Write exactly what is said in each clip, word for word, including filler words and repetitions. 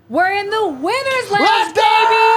We're in the winner's lounge, Let's go!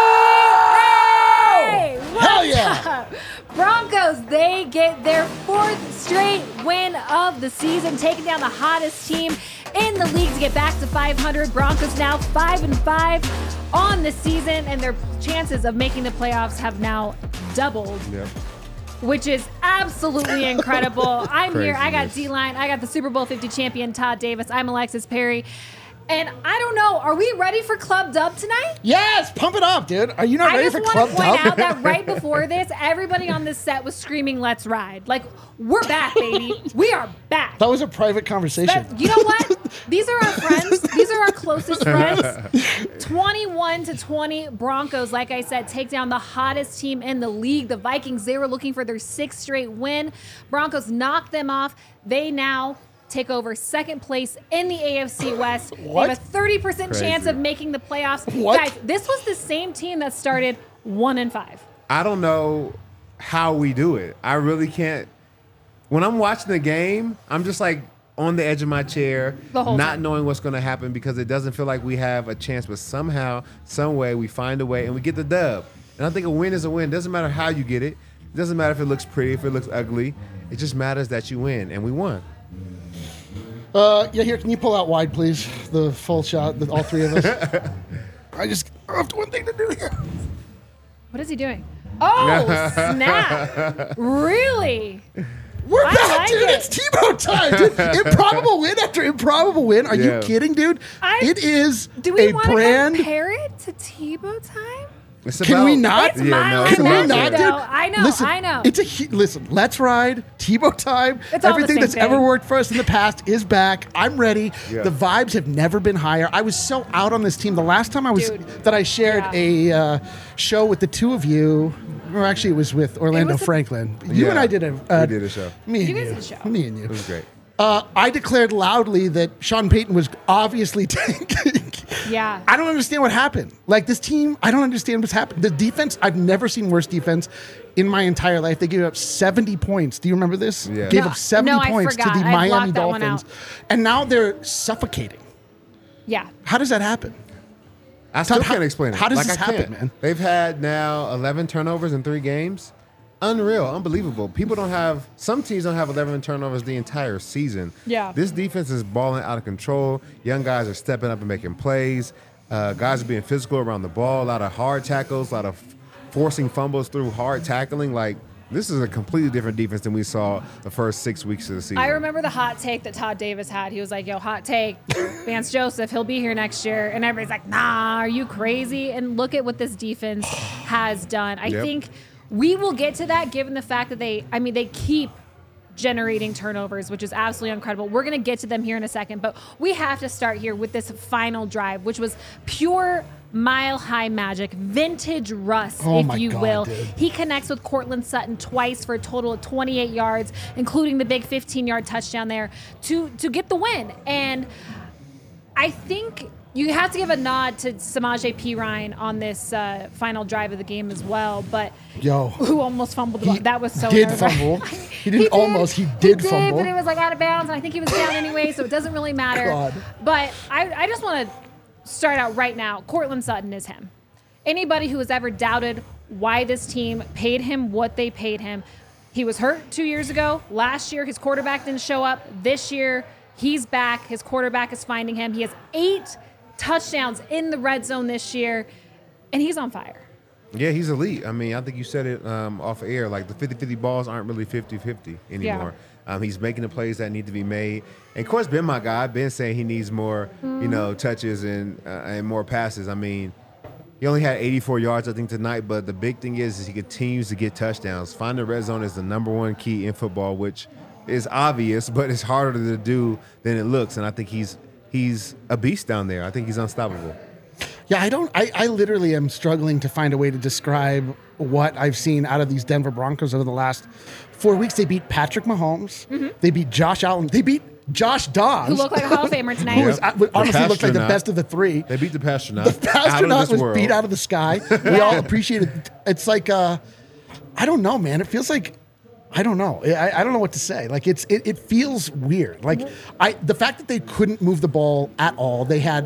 baby! Hey, Hell yeah! up? Broncos, they get their fourth straight win of the season, taking down the hottest team in the league to get back to five hundred. Broncos now five and five on the season, and their chances of making the playoffs have now doubled. Yep. Which is absolutely incredible. I'm here. I got Craziness. D-Line. I got the Super Bowl fifty champion, Todd Davis. I'm Alexis Perry. And I don't know, are we ready for Club Dub tonight? Yes, pump it up, dude. Are you not I ready just for want Club to point Dub? out that right before this, everybody on this set was screaming, "Let's ride." Like, we're back, baby. We are back. That was a private conversation. That- you know what? These are our friends. These are our closest friends. twenty-one to twenty Broncos, like I said, take down the hottest team in the league. The Vikings, they were looking for their sixth straight win. Broncos knocked them off. They now take over second place in the A F C West. What? They have a thirty percent chance Crazy. of making the playoffs. What? Guys, this was the same team that started one and five. I don't know how we do it. I really can't. When I'm watching the game, I'm just like on the edge of my chair, The whole not time. knowing what's going to happen because it doesn't feel like we have a chance. But somehow, some way, we find a way and we get the dub. And I think a win is a win. Doesn't matter how you get it. It doesn't matter if it looks pretty, if it looks ugly. It just matters that you win, and we won. Uh, yeah, here, can you pull out wide, please? The full shot, the, all three of us. I just I have one thing to do here. What is he doing? Oh, snap. Really? We're I back, like dude. it. It's Tebow time, dude. Improbable win after improbable win. Are Yeah. you kidding, dude? I- it is Do we a want to brand. compare it to Tebow time? It's Can we not? It's Yeah, my no, line it's Can we about magic, not, that. dude? though. I know, Listen, I know. It's a hu- listen. Let's ride Tebow time. It's all the Everything same that's thing. ever worked for us in the past is back. I'm ready. Yeah. The vibes have never been higher. I was so out on this team. The last time I was Dude. that I shared Yeah. a uh, show with the two of you, or actually it was with Orlando was a- Franklin. You Yeah. and I did a. Uh, We did a show. Me and You you. guys did a show. Me and you. It was great. Uh, I declared loudly that Sean Payton was obviously tanking. Yeah. I don't understand what happened. Like this team, I don't understand what's happened. The defense, I've never seen worse defense in my entire life. They gave up seventy points. Do you remember this? Yeah. Gave No, up seventy no, I points forgot. to the I Miami blocked that one Dolphins. out. And now they're suffocating. Yeah. How does that happen? I still Todd, how- can't explain it. how does like, this I can't. happen, man? They've had now eleven turnovers in three games. Unreal, unbelievable. People don't have, some teams don't have eleven turnovers the entire season. Yeah. This defense is balling out of control. Young guys are stepping up and making plays. Uh, guys are being physical around the ball. A lot of hard tackles, a lot of forcing fumbles through hard tackling. Like, this is a completely different defense than we saw the first six weeks of the season. I remember the hot take that Todd Davis had. He was like, yo, hot take, Vance Joseph, he'll be here next year. And everybody's like, nah, are you crazy? And look at what this defense has done. I Yep. think we will get to that given the fact that they, I mean, they keep generating turnovers, which is absolutely incredible. We're going to get to them here in a second, but we have to start here with this final drive, which was pure mile-high magic, vintage Russ, Oh if my you God, will. dude. He connects with Cortland Sutton twice for a total of twenty-eight yards, including the big fifteen-yard touchdown there to to get the win. And I think you have to give a nod to Samaje Perine on this uh, final drive of the game as well, but Yo. who almost fumbled the ball. He That was so did nerve-wracking. fumble. He didn't almost, he did fumble. but it was like out of bounds, and I think he was down anyway, so it doesn't really matter. God. But I, I just want to start out right now. Cortland Sutton is him. Anybody who has ever doubted why this team paid him what they paid him, he was hurt two years ago. Last year, his quarterback didn't show up. This year, he's back. His quarterback is finding him. He has eight touchdowns in the red zone this year, and he's on fire. Yeah, he's elite. I mean, I think you said it um, off air. Like, the fifty-fifty balls aren't really fifty-fifty anymore. Um, he's making the plays that need to be made. And, of course, Ben, my guy, Ben saying he needs more, you know, touches and uh, and more passes. I mean, he only had eighty-four yards, I think, tonight. But the big thing is, is he continues to get touchdowns. Finding the red zone is the number one key in football, which is obvious, but it's harder to do than it looks. And I think he's he's a beast down there. I think he's unstoppable. Yeah, I don't. I, I literally am struggling to find a way to describe what I've seen out of these Denver Broncos over the last four weeks. They beat Patrick Mahomes. They beat Josh Allen. They beat Josh Dobbs. Who looked like a Hall of Famer tonight. Who was, Yep. uh, honestly looked like the Pastronaut. best of the three. They beat the Pastronaut. The out of astronaut this was world. beat out of the sky. We all appreciated it. It's like, uh, I don't know, man. It feels like, I don't know. I, I don't know what to say. Like it's it, it feels weird. Like I the fact that they couldn't move the ball at all. They had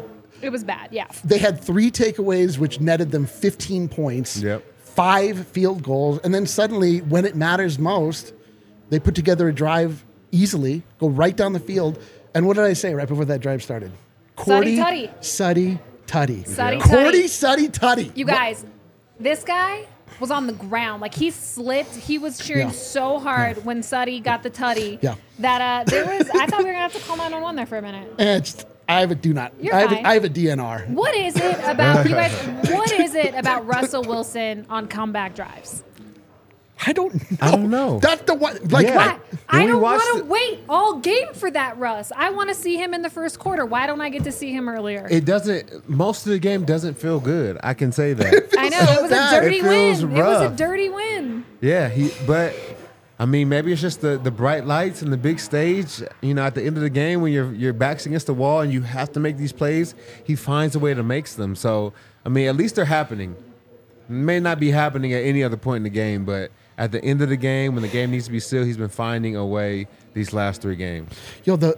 It was bad, yeah. They had three takeaways, which netted them fifteen points. Yep. Five field goals, and then suddenly, when it matters most, they put together a drive easily, go right down the field. And what did I say right before that drive started? Cordy, Tutty. Suddy, Tutty. Suddy, Cordy, Tutty. Suddy, Tutty. You guys, this guy was on the ground. Like, he slipped. He was cheering Yeah. so hard when Suddy got the tutty Yeah. that uh, there was, I thought we were going to have to call nine one one there for a minute. And it's, I have a do not. You're I have, fine. a, I have a D N R. What is it about, you guys, what is it about Russell Wilson on comeback drives? I don't know. I don't know. That's the one. Like, Yeah. I, I- I When we don't watched want to it- wait all game for that, Russ. I want to see him in the first quarter. Why don't I get to see him earlier? It doesn't. Most of the game doesn't feel good. I can say that. I know. so It was bad. a dirty It feels win. It was a rough. dirty win. Yeah, he. But I mean, maybe it's just the, the bright lights and the big stage. You know, at the end of the game, when your your back's against the wall and you have to make these plays, he finds a way to make them. So I mean, at least they're happening. May not be happening at any other point in the game, but at the end of the game, when the game needs to be sealed, he's been finding a way these last three games. Yo, the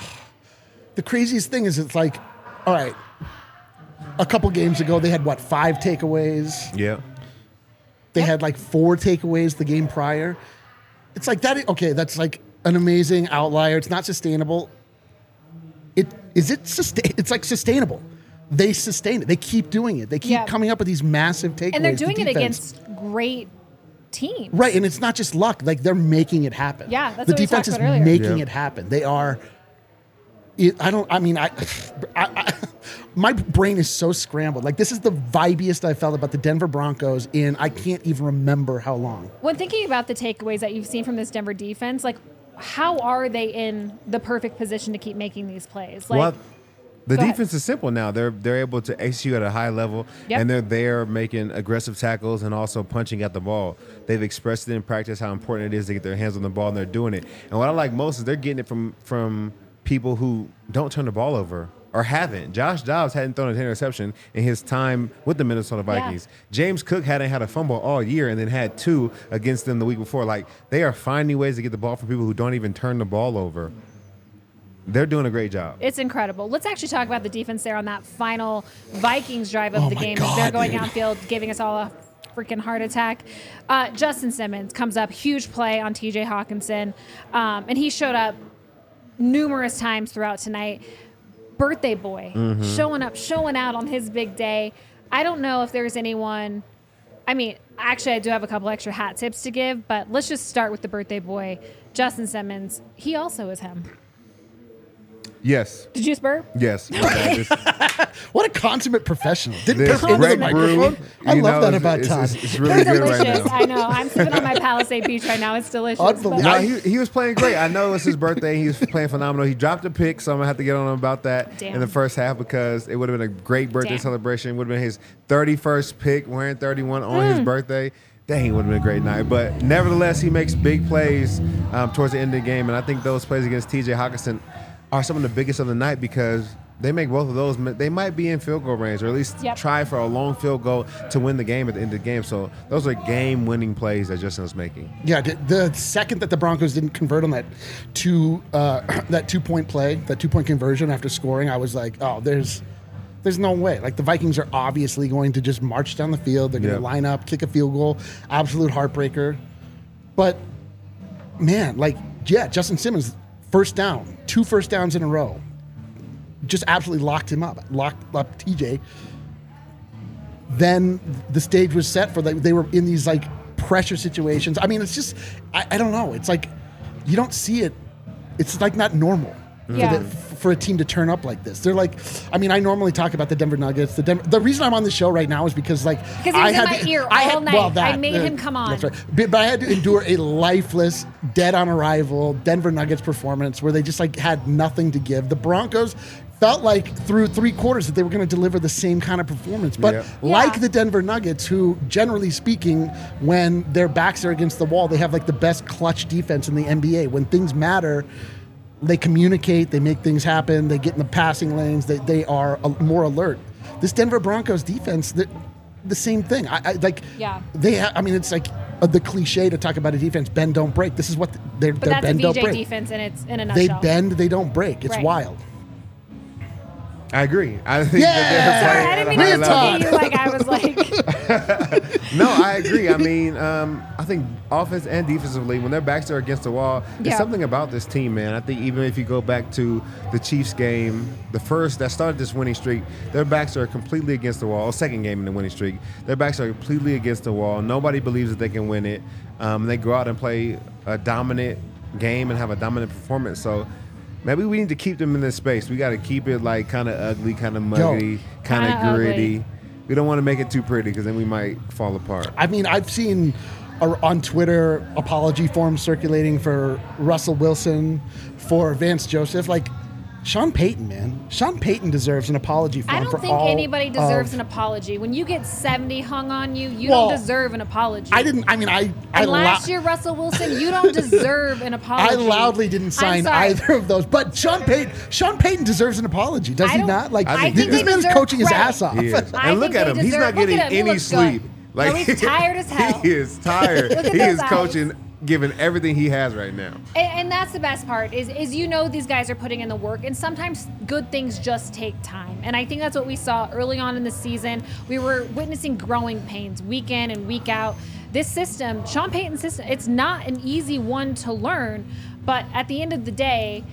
the craziest thing is it's like, all right, a couple games ago they had what, five takeaways? Yeah. They had like four takeaways the game prior. It's like that. Okay, that's like an amazing outlier. It's not sustainable. It is it sustain. It's like sustainable. They sustain it. They keep doing it. They keep Yeah. coming up with these massive takeaways. And they're The doing it defense- against great teams. right, and it's not just luck. Like they're making it happen. Yeah, that's the what we defense talked is about earlier. making Yeah. it happen. They are. It, I don't. I mean, I, I, I. My brain is so scrambled. Like this is the vibiest I felt about the Denver Broncos in I can't even remember how long. When thinking about the takeaways that you've seen from this Denver defense, like, how are they in the perfect position to keep making these plays? Like, well, the go ahead. defense is simple now. They're they're able to execute at a high level, Yep. and they're there making aggressive tackles and also punching at the ball. They've expressed it in practice how important it is to get their hands on the ball, and they're doing it. And what I like most is they're getting it from from people who don't turn the ball over or haven't. Josh Dobbs hadn't thrown an interception in his time with the Minnesota Vikings. James Cook hadn't had a fumble all year and then had two against them the week before. Like, they are finding ways to get the ball from people who don't even turn the ball over. They're doing a great job. it's incredible. Let's actually talk about the defense there on that final Vikings drive of Oh the my game. God, They're going dude. downfield, giving us all a freaking heart attack. Uh, Justin Simmons comes up, huge play on T J Hawkinson, um, and he showed up numerous times throughout tonight. Birthday boy, Mm-hmm. showing up, showing out on his big day. I don't know if there's anyone. I mean, actually, I do have a couple extra hat tips to give, but let's just start with the birthday boy, Justin Simmons. He also is him. Yes. Did you spur? Yes. Okay. What a consummate professional! Didn't This burp into the Greg Brew, microphone. I you love know, that it's- about it's, Todd. It's, it's really They're good right delicious. now. I know. I'm sipping on my Palisade Beach right now. It's delicious. but- Unbelievable. No, he, he was playing great. I know it's his birthday. He was playing phenomenal. He dropped a pick, so I'm gonna have to get on him about that Damn. in the first half because it would have been a great birthday Damn. celebration. Would have been his thirty-first pick, wearing thirty-one on his birthday. Dang, it would have been a great night. But nevertheless, he makes big plays um, towards the end of the game, and I think those plays against T J Hawkinson are some of the biggest of the night because they make both of those. They might be in field goal range, or at least Yep. try for a long field goal to win the game at the end of the game. So those are game-winning plays that Justin was making. Yeah, the, the second that the Broncos didn't convert on that two uh, that two point play, that two point conversion after scoring, I was like, oh, there's there's no way. Like the Vikings are obviously going to just march down the field. They're going to Yeah. line up, kick a field goal, absolute heartbreaker. But man, like yeah, Justin Simmons first down, two first downs in a row, just absolutely locked him up, locked up T J. Then the stage was set for like they were in these like pressure situations. I mean, it's just I, I don't know. It's like you don't see it. It's like not normal Yeah. for, the, for a team to turn up like this. They're like, I mean, I normally talk about the Denver Nuggets. The Denver, the reason I'm on this show right now is because like Because he was I in had my to- ear I all had- night. well, that, I made uh, him come on. That's right. But, but I had to endure a lifeless, dead on arrival Denver Nuggets performance where they just like had nothing to give. The Broncos felt like through three quarters that they were going to deliver the same kind of performance. But Yep. like Yeah. the Denver Nuggets, who generally speaking, when their backs are against the wall, they have like the best clutch defense in the N B A. When things matter, they communicate, they make things happen, they get in the passing lanes, they, they are uh, more alert. This Denver Broncos defense, the, the same thing. I, I like. Yeah. They. Ha- I mean, it's like uh, the cliche to talk about a defense: bend, don't break. This is what they're. But they're that's a bend, don't V J break. defense, and it's in a They nutshell. bend, they don't break. It's Right. wild. I agree. I think Yeah! that they're Sorry, I playing didn't at a mean to high look level. at you like I was like. No, I agree. I mean, um, I think offense and defensively, when their backs are against the wall, Yeah. there's something about this team, man. I think even if you go back to the Chiefs game, the first that started this winning streak, their backs are completely against the wall. Second game in the winning streak, their backs are completely against the wall. Nobody believes that they can win it. Um, they go out and play a dominant game and have a dominant performance. So maybe we need to keep them in this space. We got to keep it like kind of ugly, kind of muggy, kind Kinda of gritty. ugly. We don't want to make it too pretty because then we might fall apart. I mean, I've seen uh, on Twitter apology forms circulating for Russell Wilson, for Vance Joseph. Like, Sean Payton, man. Sean Payton deserves an apology form I don't for think all anybody deserves of- an apology. When you get seventy hung on you, you Well, don't deserve an apology. I didn't. I mean, I. I And last lou- year, Russell Wilson, you don't deserve an apology. I loudly didn't I'm sign sorry. either of those, but Sean Payton, Sean Payton deserves an apology, does I he don't- not? Like, I think this they man is deserve coaching his credit. ass off. He is. I And look think at they him. He's deserve- not look getting at him. He any looks sleep. good. No, he's tired as hell. He is tired. Look at he those is eyes. coaching, giving everything he has right now. And, and that's the best part is, is you know these guys are putting in the work, and sometimes good things just take time. And I think that's what we saw early on in the season. We were witnessing growing pains week in and week out. This system, Sean Payton's system, it's not an easy one to learn, but at the end of the day,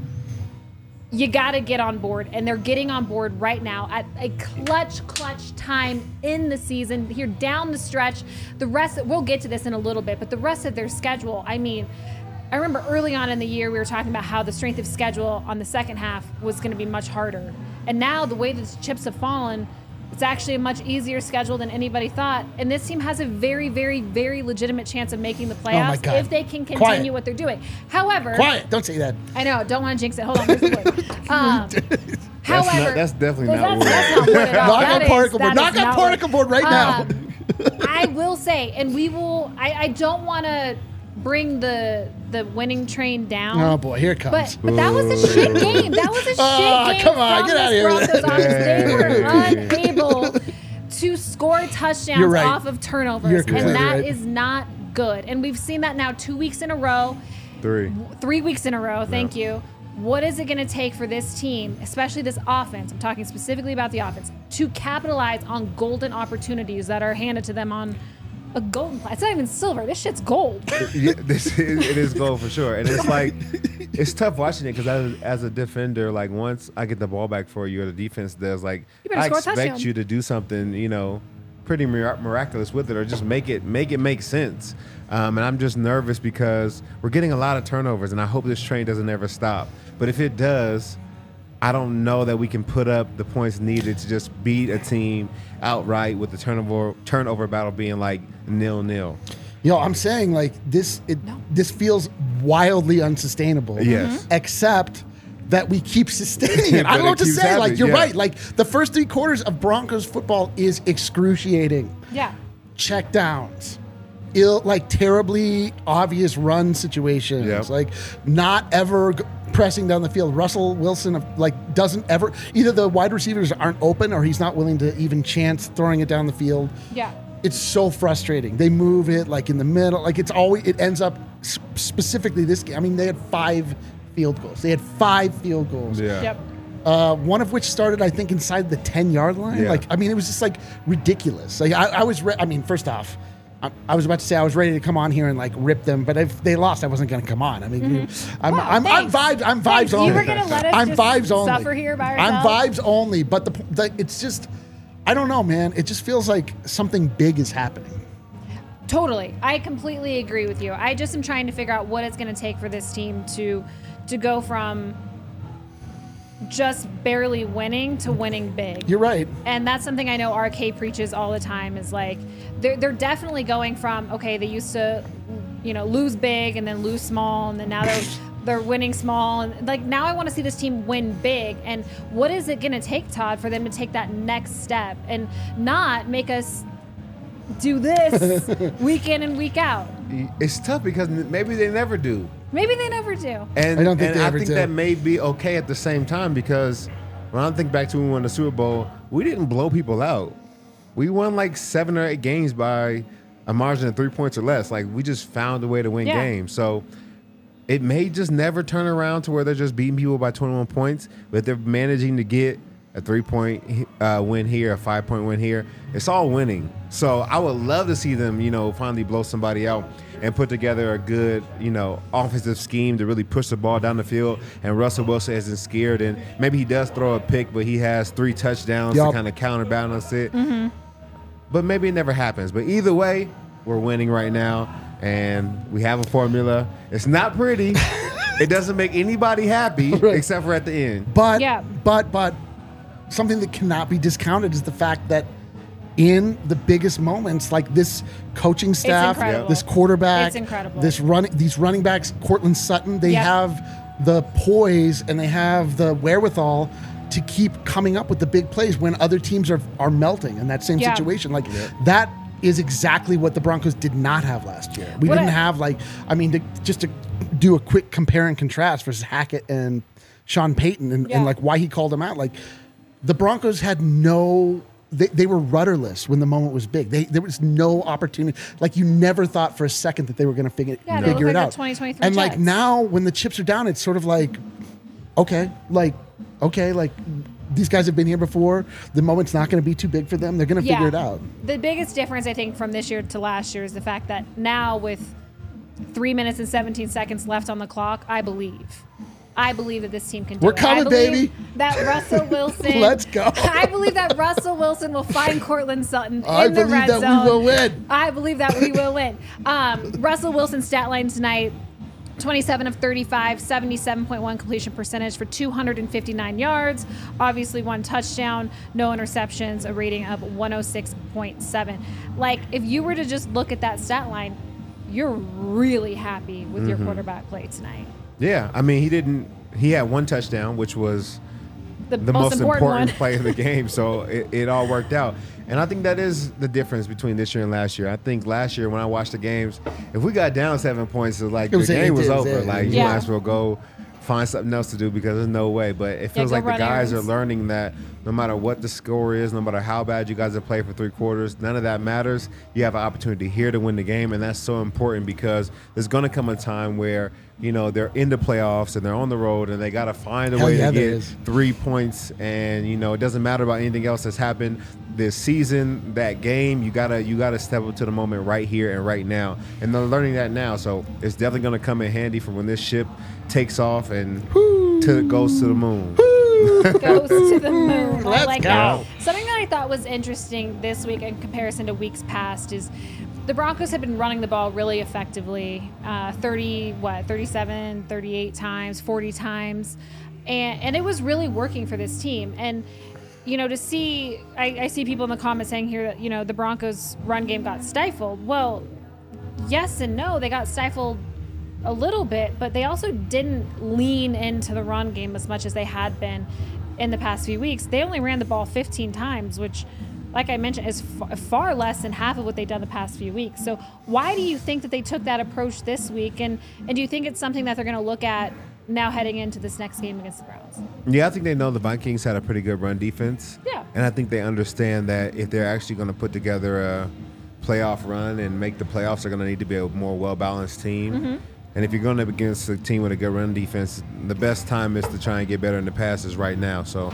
you got to get on board, and they're getting on board right now at a clutch, clutch time in the season. Here down the stretch, the rest, we'll get to this in a little bit, but the rest of their schedule, I mean, I remember early on in the year, we were talking about how the strength of schedule on the second half was going to be much harder. And now the way that the chips have fallen, it's actually a much easier schedule than anybody thought. And this team has a very, very, very legitimate chance of making the my playoffs God. if they can continue Quiet. what they're doing. However, Quiet! Don't say that. I know, don't want to jinx it. Hold on, where's the wood? Um, That's however, not- that's definitely that's, not wood. That's not wood at all. Knock That on is- particle board. that Knock is on not particle wood. board right now. Um, I will say, and we will. I, I don't want to bring the the winning train down. Oh boy, here it comes. But but that was a shit game. That was a shit Ah, game come on, from get this outta here with Broncos that. offense. They were unable to score touchdowns You're right. off of turnovers, You're and completely that is right. not good. And we've seen that now two weeks in a row. Three. Three weeks in a row, thank you. What is it going to take for this team, especially this offense, I'm talking specifically about the offense, to capitalize on golden opportunities that are handed to them on a golden platter? It's not even silver. This shit's gold. Yeah, this is, it is gold for sure, and it's like it's tough watching it because as, as a defender, like once I get the ball back for you, or the defense does, like You better I score a expect touchdown. you to do something, you know, pretty mir- miraculous with it, or just make it make it make sense. Um, and I'm just nervous because we're getting a lot of turnovers, and I hope this train doesn't ever stop. But if it does, I don't know that we can put up the points needed to just beat a team outright with the turnover turnover battle being like nil nil. Yo, I'm saying like this. It, This feels wildly unsustainable. Yes. Except that we keep sustaining it. I But don't know it what to keeps say. Like happening, you're yeah. right. Like the first three quarters of Broncos football is excruciating. Yeah. Check downs, ill, like terribly obvious run situations, Yep. like not ever g- pressing down the field. Russell Wilson like doesn't ever, either the wide receivers aren't open or he's not willing to even chance throwing it down the field. Yeah. It's so frustrating. They move it like in the middle, like it's always, it ends up s- specifically this game. I mean, they had five field goals. They had five field goals. Yeah. Yep. Uh, one of which started, I think, inside the ten yard line. Yeah. Like, I mean, it was just like ridiculous. Like, I, I was, re- I mean, first off, I, I was about to say I was ready to come on here and like rip them, but if they lost, I wasn't going to come on. I mean, you- I'm, Well, I'm, I'm thanks. vibes. I'm vibes Thanks. You only. were gonna let us I'm just vibes only. suffer here by I'm ourselves? vibes only. But the, the, it's just, I don't know, man. It just feels like something big is happening. Totally. I completely agree with you. I just am trying to figure out what it's going to take for this team to to go from just barely winning to winning big. You're right. And that's something I know R K preaches all the time is like they're they're definitely going from, okay, they used to, you know, lose big and then lose small, and then now they're they're winning small, and like now I want to see this team win big. And what is it going to take, Todd, for them to take that next step and not make us do this week in and week out? It's tough because maybe they never do. Maybe they never do. And I don't think and they I ever think do. that may be okay at the same time because when I think back to when we won the Super Bowl, we didn't blow people out. We won like seven or eight games by a margin of three points or less. Like we just found a way to win Yeah. games. So it may just never turn around to where they're just beating people by twenty-one points, but they're managing to get a three-point uh, win here, a five-point win here. It's all winning. So I would love to see them, you know, finally blow somebody out and put together a good, you know, offensive scheme to really push the ball down the field. And Russell Wilson isn't scared. And maybe he does throw a pick, but he has three touchdowns yep. to kind of counterbalance it. Mm-hmm. But maybe it never happens. But either way, we're winning right now. And we have a formula. It's not pretty. It doesn't make anybody happy right. except for at the end. But, yeah. but, but something that cannot be discounted is the fact that in the biggest moments, like this coaching staff, this quarterback, it's incredible. this running, these running backs, Cortland Sutton, they yep. have the poise and they have the wherewithal to keep coming up with the big plays when other teams are are melting in that same yeah. situation. Like yeah. that is exactly what the Broncos did not have last year. We what didn't I, have like, I mean, to, just to do a quick compare and contrast versus Hackett and Sean Payton and, yeah. and like why he called him out. Like the Broncos had no. They, they were rudderless when the moment was big. They, there was no opportunity. Like you never thought for a second that they were going to figure, yeah, figure it it out. twenty twenty-three and like Jets. now when the chips are down, it's sort of like, okay, like, okay, like these guys have been here before. The moment's not going to be too big for them. They're going to yeah. figure it out. The biggest difference, I think, from this year to last year is the fact that now with three minutes and seventeen seconds left on the clock, I believe. I believe that this team can do We're it. coming, I believe baby. That Russell Wilson. Let's go. I believe that Russell Wilson will find Cortland Sutton in I the believe red that zone. we will win. I believe that we will win. Um, Russell Wilson's stat line tonight, twenty-seven of thirty-five, seventy-seven point one completion percentage for two hundred fifty-nine yards. Obviously one touchdown, no interceptions, a rating of one oh six point seven. Like, if you were to just look at that stat line, you're really happy with mm-hmm. your quarterback play tonight. Yeah, I mean, he didn't – he had one touchdown, which was the, the most, most important, important one. play of the game. So it, it all worked out. And I think that is the difference between this year and last year. I think last year when I watched the games, if we got down seven points, it was like it was the game was it, over. It, like yeah. you might as well go find something else to do because there's no way. But it feels yeah, like the guys errands. are learning that no matter what the score is, no matter how bad you guys have played for three quarters, none of that matters. You have an opportunity here to win the game, and that's so important because there's going to come a time where, you know, they're in the playoffs and they're on the road and they got to find a Hell way yeah, to there get is. three points. And, you know, it doesn't matter about anything else that's happened this season, that game. You gotta you gotta step up to the moment right here and right now. And they're learning that now. So it's definitely going to come in handy for when this ship takes off and to, goes to the moon. Goes to the moon. Let's I like go. that. Something that I thought was interesting this week in comparison to weeks past is the Broncos have been running the ball really effectively. Uh, thirty, what, thirty-seven, thirty-eight times, forty times. And, and it was really working for this team. And, you know, to see, I, I see people in the comments saying here that, you know, the Broncos' run game got stifled. Well, yes and no. They got stifled a little bit, but they also didn't lean into the run game as much as they had been in the past few weeks. They only ran the ball fifteen times, which, like I mentioned, is f- far less than half of what they've done the past few weeks. So why do you think that they took that approach this week? And, and do you think it's something that they're going to look at now heading into this next game against the Browns? Yeah, I think they know the Vikings had a pretty good run defense. Yeah. And I think they understand that if they're actually going to put together a playoff run and make the playoffs, they're going to need to be a more well-balanced team. Mm-hmm. And if you're going up against a team with a good run defense, the best time is to try and get better in the passes right now. So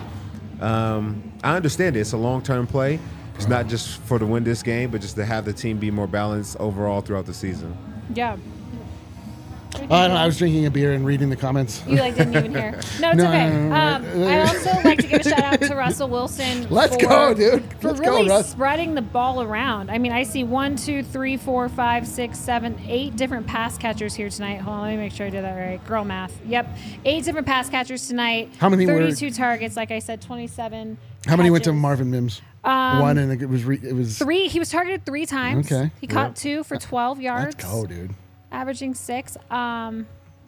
um, I understand it. It's a long-term play. It's not just for to win this game, but just to have the team be more balanced overall throughout the season. Yeah. I, don't know, I was drinking a beer and reading the comments. You like didn't even hear. No, it's No, okay. no, no, Um, no. I'd also like to give a shout out to Russell Wilson. Let's for, go, dude. For Let's really go, Russ. spreading the ball around. I mean, I see one, two, three, four, five, six, seven, eight different pass catchers here tonight. Hold on, let me make sure I did that right. Girl math. Yep, eight different pass catchers tonight. How many were- thirty-two targets, like I said, twenty-seven. How many went to catches. Marvin Mims? Um, One, and it was re- it was Three. He was targeted three times. Okay. He caught Yep. two for twelve yards. Let's go, dude. Averaging six. Um,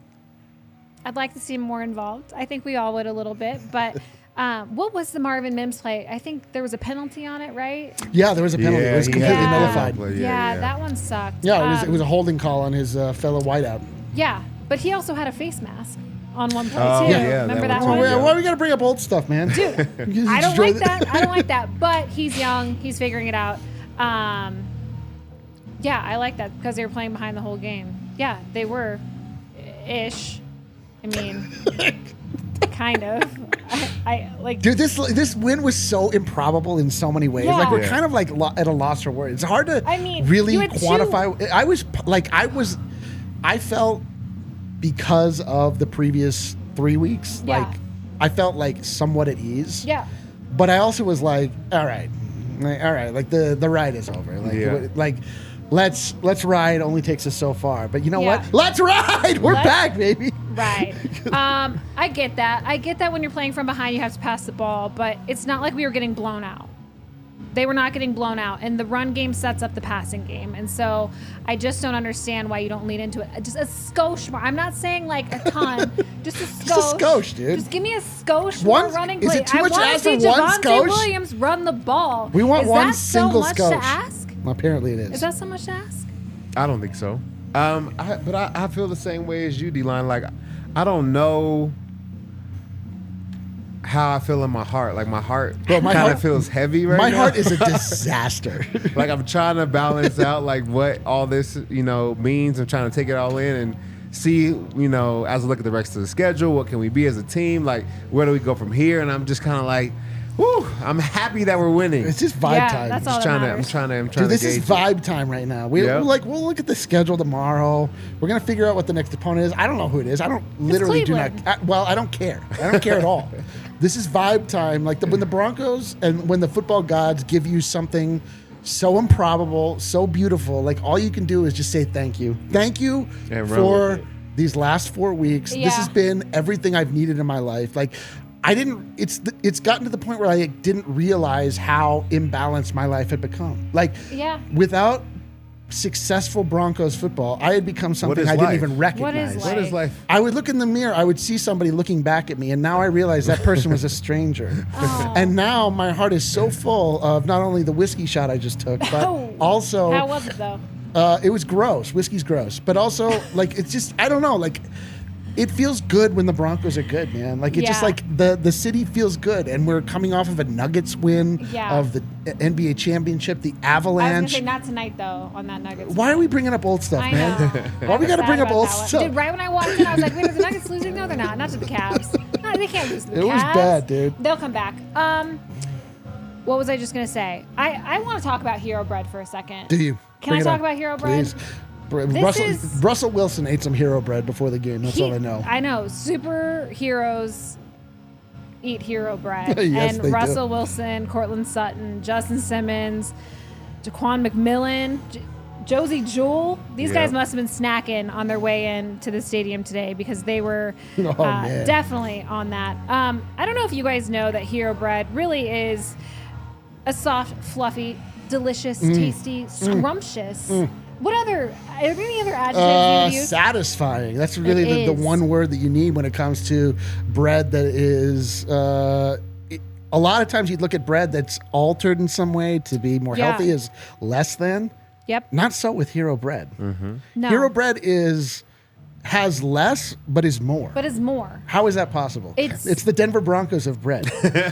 I'd like to see him more involved. I think we all would a little bit. But um, what was the Marvin Mims play? I think there was a penalty on it, right? Yeah, there was a penalty. Yeah, it was he completely had- nullified. Yeah, Yeah, yeah. that one sucked. Yeah, it was, Um, it was a holding call on his uh, fellow whiteout. Yeah, but he also had a face mask on one play, Oh, too. yeah, Remember that that, one one? too. Why, Yeah. why are we gotta bring up old stuff, man? Dude, I don't like that. I don't like that. But he's young. He's figuring it out. Um, yeah, I like that because they were playing behind the whole game. Yeah, they were ish. I mean, kind of. I, I like. Dude, this this win was so improbable in so many ways. Yeah. Like we're Yeah. kind of like lo- at a loss for words. It's hard to I mean, really you had quantify. I was p- like, I was, I felt because of the previous three weeks, Yeah. like I felt like somewhat at ease. Yeah. But I also was like, all right, like, all right, like the the ride is over. Like, Yeah. like let's let's ride. Only takes us so far. But you know Yeah. what? Let's ride. We're Let's- back, baby. Right. Um, I get that. I get that when you're playing from behind, you have to pass the ball, but it's not like we were getting blown out. They were not getting blown out, and the run game sets up the passing game. And so I just don't understand why you don't lean into it. Just a skosh more. I'm not saying like a ton, just a skosh. Just a skosh, dude. Just give me a skosh One- more running is play. it too I much to want to ask see for one Javonte skosh? Williams run the ball. We want is one that single so much skosh. to ask? Apparently, it is. Is that so much to ask? I don't think so. Um, I, but I, I feel the same way as you, D-Line. Like, I don't know how I feel in my heart. Like, my heart Bro, my kind heart- of feels heavy right My now. heart is a disaster. Like, I'm trying to balance out, like, what all this, you know, means. I'm trying to take it all in and see, you know, as I look at the rest of the schedule, what can we be as a team? Like, where do we go from here? And I'm just kind of like, whew, I'm happy that we're winning. It's just vibe Yeah, time. that's Just all that trying to, I'm matters. trying to, I'm trying Dude, this to is gauge it. vibe time right now. We, Yep. we're like, we'll look at the schedule tomorrow. We're gonna figure out what the next opponent is. I don't know who it is. I don't literally do not. Cleveland. I, well, I don't care. I don't care at all. This is vibe time. Like the, when the Broncos and when the football gods give you something so improbable, so beautiful, like all you can do is just say thank you. Thank you And run for with it. these last four weeks. This Yeah. has been everything I've needed in my life. Like. I didn't. It's the, it's gotten to the point where I didn't realize how imbalanced my life had become. Like, Yeah. without successful Broncos football, I had become something is I didn't life? even recognize. life? What is life? I would look in the mirror, I would see somebody looking back at me, and now I realize that person was a stranger. Oh. And now my heart is so full of not only the whiskey shot I just took, but Oh. also How was it though? uh, it was gross. Whiskey's gross, but also like it's just I don't know like. It feels good when the Broncos are good, man. Like it's just Yeah. like the the city feels good, and we're coming off of a Nuggets win, Yeah. of the N B A championship, the I was gonna Avalanche. say not tonight though on that Nuggets. Why are we bringing up old stuff, I man? know. Why I'm we got to sad bring up about old that one. stuff? Dude, right when I walked in, I was like, wait, are the Nuggets losing? No, they're not. Not to the Cavs. No, they can't lose to the It was Cavs. bad, dude. They'll come back. Um, what was I just going to say? I, I want to talk about Hero Bread for a second. Do you? Can Bring I it talk on. about Hero Bread? Please. Br- This Russell, is- Russell Wilson ate some hero bread before the game. That's He- all I know. I know. Superheroes eat hero bread. Yes, and they do. Russell Wilson, Cortland Sutton, Justin Simmons, Jaquan McMillan, J- Josie Jewell. These Yeah. guys must have been snacking on their way in to the stadium today because they were Oh, uh, man. definitely on that. Um, I don't know if you guys know that hero bread really is a soft, fluffy, delicious, Mm. tasty, scrumptious. What other? Are there any other adjectives Uh, you would use? satisfying. That's really It the, the is. one word that you need when it comes to bread that is. Uh, it- a lot of times you'd look at bread that's altered in some way to be more Yeah. healthy as less than. Yep. Not so with hero bread. No. Hero bread is has less but is more. But it's more. How is that possible? It's- it's the Denver Broncos of bread.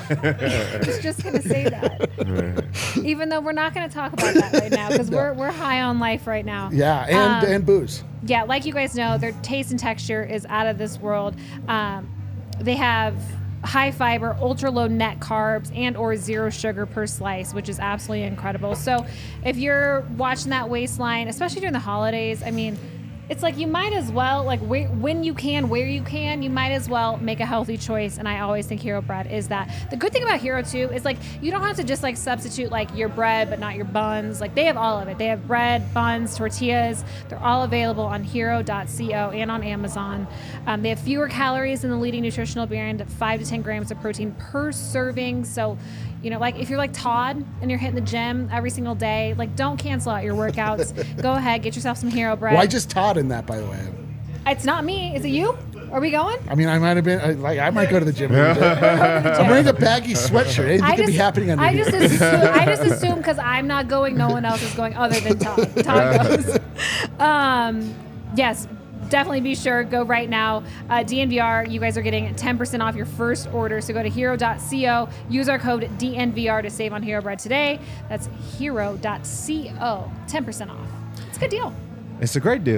I was just gonna say that. Even though we're not gonna talk about that right now because we're we're high on life right now. yeah, and Um, and booze. Yeah, like you guys know, their taste and texture is out of this world. Um, they have high fiber, ultra low net carbs, and or zero sugar per slice, which is absolutely incredible. So if you're watching that waistline, especially during the holidays, I mean, it's like you might as well, like where, when you can, where you can, you might as well make a healthy choice. And I always think Hero Bread is that. The good thing about Hero too is like you don't have to just like substitute like your bread but not your buns. Like they have all of it. They have bread, buns, tortillas. They're all available on hero dot co and on Amazon. Um, they have fewer calories than the leading nutritional brand, five to ten grams of protein per serving. So, you know, like if you're like Todd and you're hitting the gym every single day, like don't cancel out your workouts. Go ahead, get yourself some Hero Bread. Why just Todd in that, by the way? It's not me. Is it you? Are we going? I mean, I might have been I- like I might go to the gym. A little bit. I'm wearing a baggy sweatshirt. Anything I could be just, happening under I here. just assume, I just assume because I'm not going, no one else is going other than Todd. Todd goes. Um, yes, definitely be sure. Go right now. Uh, D N V R, you guys are getting ten percent off your first order. So go to hero dot co. Use our code D N V R to save on Hero Bread today. That's hero dot co. ten percent off. It's a good deal. It's a great deal.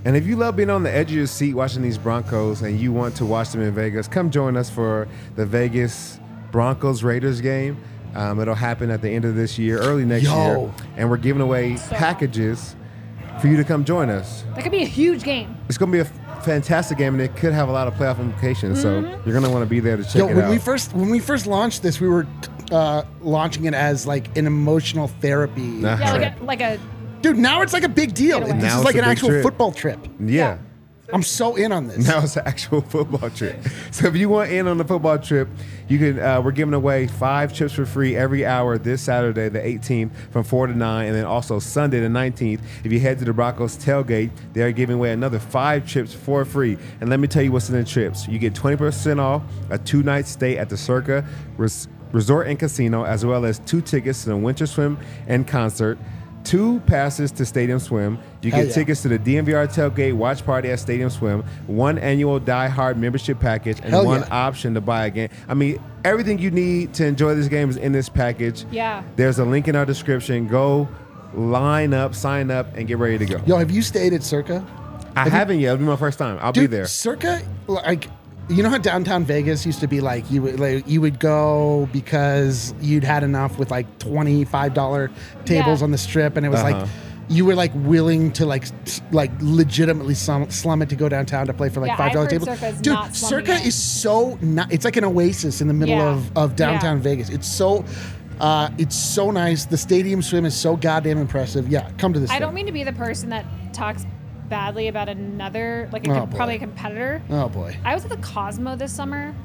And if you love being on the edge of your seat watching these Broncos and you want to watch them in Vegas, come join us for the Vegas Broncos-Raiders game. Um, it'll happen at the end of this year, early next Yo. year. And we're giving away So packages for you to come join us. That could be a huge game. It's going to be a f- fantastic game, and it could have a lot of playoff implications. So you're going to want to be there to check Yo, it when out. we first when we first launched this, we were uh, launching it as like an emotional therapy. Nah. Yeah, Right. like a, like a Dude, now it's like a big deal. Get away. This Now is it's like a an big actual trip. football trip. yeah. I'm so in on this. Now it's an actual football trip. So if you want in on the football trip, you can. Uh, we're giving away five trips for free every hour this Saturday, the eighteenth, from four to nine, and then also Sunday, the nineteenth. If you head to the Broncos tailgate, they are giving away another five trips for free. And let me tell you what's in the trips. You get twenty percent off a two-night stay at the Circa Res- Resort and Casino, as well as two tickets to the Winter Swim and concert. Two passes to Stadium Swim. You Hell get yeah. tickets to the D M V R tailgate watch party at Stadium Swim, one annual Die Hard membership package, and Hell one yeah. option to buy a game. I mean, everything you need to enjoy this game is in this package. Yeah. There's a link in our description. Go line up, sign up, and get ready to go. Yo, have you stayed at Circa? I haven't yet. It'll be my first time. I'll Dude, be there. Circa, like, you know how downtown Vegas used to be like you would like you would go because you'd had enough with like twenty-five dollar tables Yeah. on the strip, and it was Uh-huh. like you were like willing to like s- like legitimately slum, slum it to go downtown to play for like Yeah, five dollar I've heard tables. Circa is Dude, not slumming Circa it. is so not. It's like an oasis in the middle Yeah. of of downtown Yeah. Vegas. It's so. Uh, it's so nice. The Stadium Swim is so goddamn impressive. Yeah, come to this. I thing. don't mean to be the person that talks badly about another, like a, Oh, com- boy. probably a competitor. Oh boy, I was at the Cosmo this summer.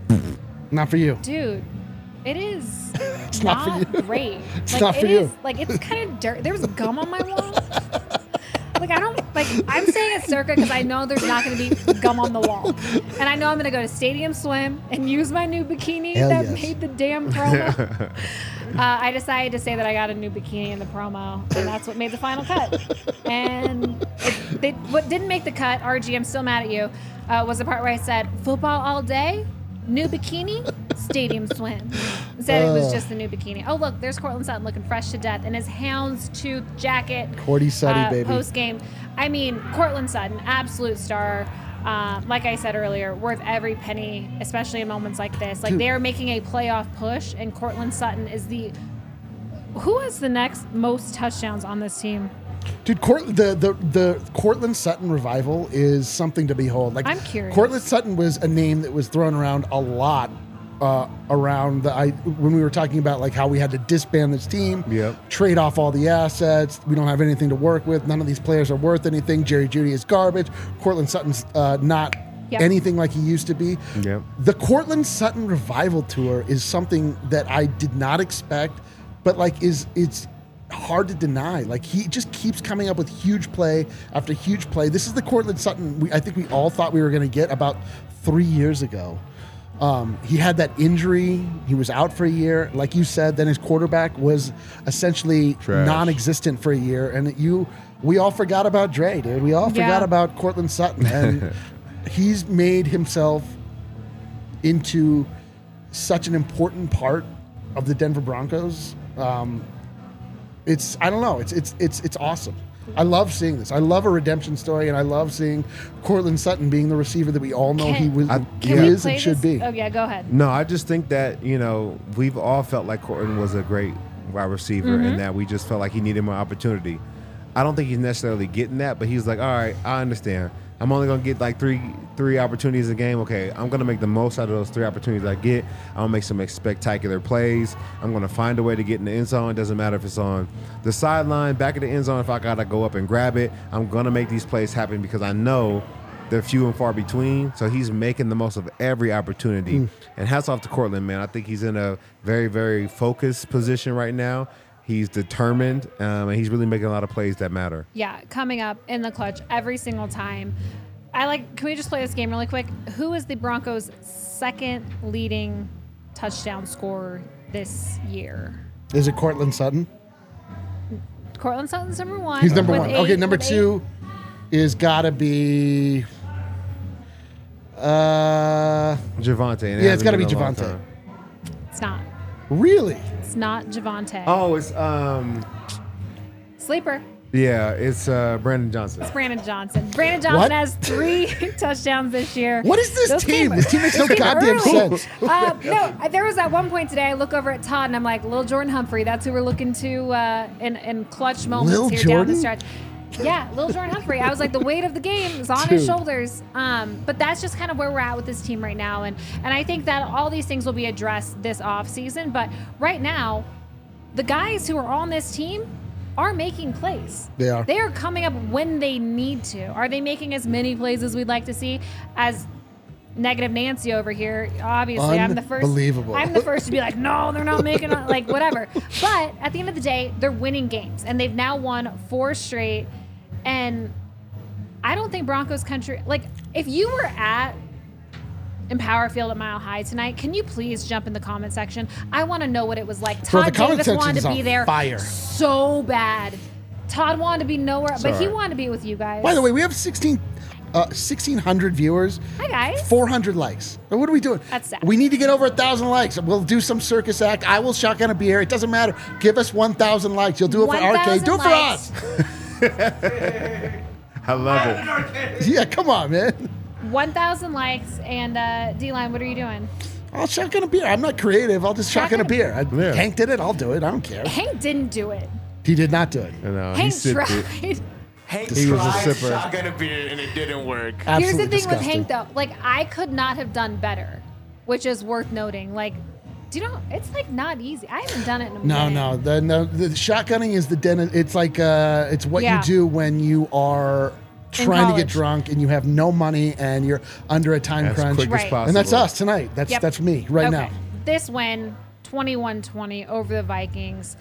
not for you. Dude, it is It's not not, for you. great. It's like, not for it you. is- like, it's kind of dirt. There was gum on my wall. Like, I don't, like, I'm saying it's Circa because I know there's not going to be gum on the wall. And I know I'm going to go to Stadium Swim and use my new bikini Hell that yes. made the damn promo. uh, I decided to say that I got a new bikini in the promo, and that's what made the final cut. And it, they, what didn't make the cut, R G, I'm still mad at you, uh, was the part where I said, football all day, new bikini, Stadium Swim. Instead, it was Ugh. just the new bikini. Oh, look, there's Cortland Sutton looking fresh to death in his houndstooth jacket. Cordy Sutty, baby. Post game. I mean, Cortland Sutton, absolute star. Uh, like I said earlier, worth every penny, especially in moments like this. Like, Dude. they are making a playoff push, and Cortland Sutton is the. Who has the next most touchdowns on this team? Dude, Court, the, the the Cortland Sutton revival is something to behold. Like, I'm curious. Cortland Sutton was a name that was thrown around a lot uh, around the I when we were talking about like how we had to disband this team, Yep. trade off all the assets. We don't have anything to work with. None of these players are worth anything. Jerry Jeudy is garbage. Cortland Sutton's uh, not Yep. anything like he used to be. Yep. The Cortland Sutton revival tour is something that I did not expect, but like is it's hard to deny. Like he just keeps coming up with huge play after huge play. This is the Cortland Sutton we, I think we all thought we were going to get about three years ago. Um, he had that injury. He was out for a year. Like you said, then his quarterback was essentially Trash. non-existent for a year. And you, we all forgot about Dre, dude. We all Yeah. forgot about Cortland Sutton. And he's made himself into such an important part of the Denver Broncos. Um, it's I don't know. It's it's it's it's awesome. I love seeing this. I love a redemption story, and I love seeing Cortland Sutton being the receiver that we all know Can- he was, I- he Can we is play and should this? be. Oh, yeah, go ahead. No, I just think that, you know, we've all felt like Cortland was a great wide receiver Mm-hmm. and that we just felt like he needed more opportunity. I don't think he's necessarily getting that, but he's like, all right, I understand. I'm only going to get like three three opportunities a game. Okay, I'm going to make the most out of those three opportunities I get. I'm going to make some spectacular plays. I'm going to find a way to get in the end zone. It doesn't matter if it's on the sideline, back of the end zone. If I got to go up and grab it, I'm going to make these plays happen because I know they're few and far between. So he's making the most of every opportunity. And hats off to Cortland, man. I think he's in a very, very focused position right now. He's determined, um, and he's really making a lot of plays that matter. Yeah, coming up in the clutch every single time. I like. Can we just play this game really quick? Who is the Broncos' second leading touchdown scorer this year? Is it Cortland Sutton? Cortland Sutton's number one. He's number with one. eight- Okay, number with two is got to be. Uh, Javante. and it yeah, it's hasn't got to be been a long Javante. time. eight. It's not. Really? It's not Javante. Oh, it's um. Sleeper. Yeah, it's uh, Brandon Johnson. It's Brandon Johnson. Brandon Johnson What? has three touchdowns this year. What is this Those team? came- This team makes no those came goddamn early. sense. Uh, no, there was at one point today, I look over at Todd and I'm like, Lil Jordan Humphrey, that's who we're looking to uh, in, in clutch moments Lil here down Jordan? the stretch. Yeah, Lil Jordan Humphrey. I was like, the weight of the game is on Dude. his shoulders. Um, but that's just kind of where we're at with this team right now. And, and I think that all these things will be addressed this offseason. But right now, the guys who are on this team are making plays. They are. They are coming up when they need to. Are they making as many plays as we'd like to see? As negative Nancy over here, obviously, I'm the first. Unbelievable. I'm the first to be like, no, they're not making it, like whatever. But at the end of the day, they're winning games, and they've now won four straight. And I don't think Broncos country. Like, if you were at Empower Field at Mile High tonight, can you please jump in the comment section? I want to know what it was like. Bro, the Todd comment Davis section wanted is to be on there fire. so bad. Todd wanted to be nowhere, but he alright. wanted to be with you guys. By the way, we have sixteen, uh, sixteen hundred viewers. Hi, guys. four hundred likes. Now, what are we doing? That's sad. We need to get over one thousand likes. We'll do some circus act. I will shotgun a beer. It doesn't matter. Give us one thousand likes. You'll do it for R K. one thousand Do it for likes. us. I love it. Yeah, come on, man. one thousand likes, and uh, D-Line, what are you doing? I'll shotgun a beer. I'm not creative. I'll just shotgun a Shotgun- beer. I, Yeah. Hank did it. I'll do it. I don't care. Hank didn't do it. He did not do it. You know, he Hank sipped tried. it. Hank He was a tried sipper. shotgun a beer and it didn't work. Here's Absolutely the thing disgusting. with Hank, though. Like, I could not have done better, which is worth noting. Like, do you know, it's like not easy. I haven't done it in a No, minute. no, the no. The shotgunning is the den. It's like uh, it's what Yeah. you do when you are trying to get college. drunk and you have no money and you're under a time As crunch. quick as Right. possible. And that's us tonight. That's Yep. that's me right Okay. now. This win, twenty-one twenty over the Vikings.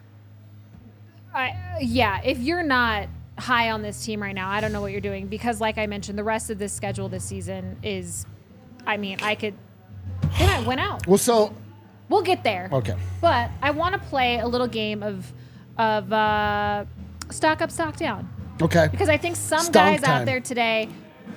I, yeah, if you're not high on this team right now, I don't know what you're doing, because like I mentioned, the rest of this schedule this season is, I mean, I could, they might win out. Well, so We'll get there. okay. But I want to play a little game of of uh, stock up, stock down, Okay. because I think some Stonk guys time. out there today,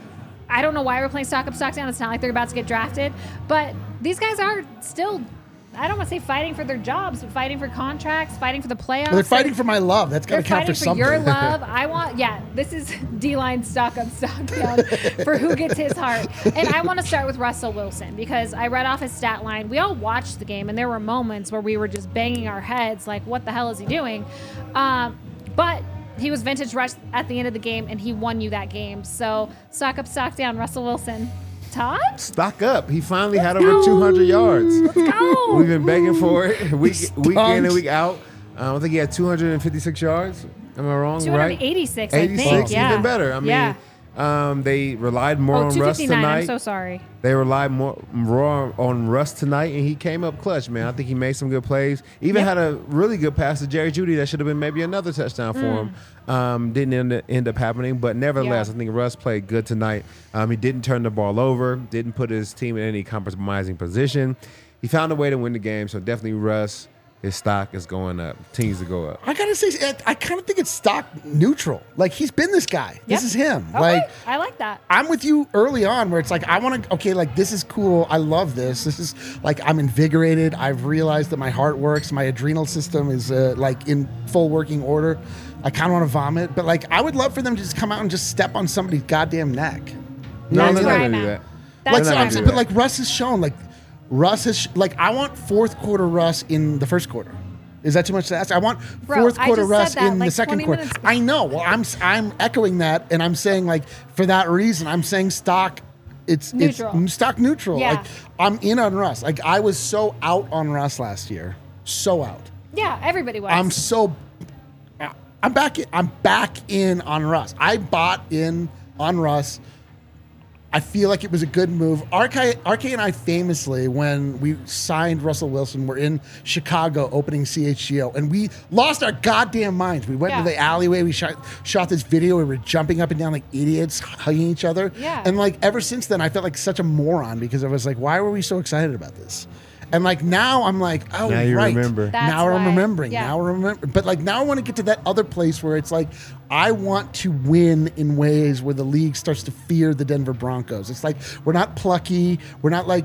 I don't know why we're playing stock up, stock down. It's not like they're about to get drafted, but these guys are still, I don't want to say fighting for their jobs, but fighting for contracts, fighting for the playoffs. Well, they're fighting for my love. That's got They're to count fighting for for something. your love. I want, yeah, this is D-Line stock up, stock down for who gets his heart. And I want to start with Russell Wilson, because I read off his stat line. We all watched the game, and there were moments where we were just banging our heads like, what the hell is he doing? Um, but he was vintage Russ at the end of the game, and he won you that game. So stock up, stock down, Russell Wilson. Todd? Stock up. He finally had over two hundred yards. Let's go. We've been begging for it week, week in and Stonks. week out. Uh, I think he had two hundred fifty-six yards. Am I wrong? Right? two eighty-six, I think. eighty-six, Yeah. even better. I mean, yeah. um, they relied more Oh, on Russ two fifty-nine. tonight. I'm so sorry. They relied more, more on Russ tonight, and he came up clutch, man. I think he made some good plays. Even Yep. had a really good pass to Jerry Jeudy that should have been maybe another touchdown for him. Um, didn't end, end up happening, but nevertheless, Yeah. I think Russ played good tonight. Um, he didn't turn the ball over, didn't put his team in any compromising position. He found a way to win the game, so definitely Russ, his stock is going up, continues to go up. I gotta say, I, I kind of think it's stock neutral. Like, he's been this guy. This Yep. is him. Okay. Like, I like that. I'm with you early on where it's like, I want to, okay, like, this is cool. I love this. This is like, I'm invigorated. I've realized that my heart works. My adrenal system is uh, like in full working order. I kind of want to vomit, but like, I would love for them to just come out and just step on somebody's goddamn neck. No, Yeah, they're where not I'm going to do at. that. That's Like, where I'm I'm saying, at. but like Russ has shown, like, Russ has, sh- like, I want fourth quarter Russ in the first quarter. Is that too much to ask? I want Bro, fourth I quarter just Russ said that in like the second twenty quarter. minutes ago. I know. Well, I'm I'm echoing that, and I'm saying like for that reason, I'm saying stock. It's Neutral. It's stock neutral. Yeah. Like I'm in on Russ. Like I was so out on Russ last year, so out. Yeah, everybody was. I'm so. I'm back. In, I'm back in on Russ. I bought in on Russ. I feel like it was a good move. R K, R K and I famously, when we signed Russell Wilson, were in Chicago opening C H G O, and we lost our goddamn minds. We went Yeah. to the alleyway. We shot shot this video. We were jumping up and down like idiots, hugging each other. Yeah. And like ever since then, I felt like such a moron because I was like, why were we so excited about this? And like now I'm like, oh, Now you right. remember. That's now I'm why. remembering. Yeah. Now I remember. But like now I want to get to that other place where it's like I want to win in ways where the league starts to fear the Denver Broncos. It's like we're not plucky. We're not like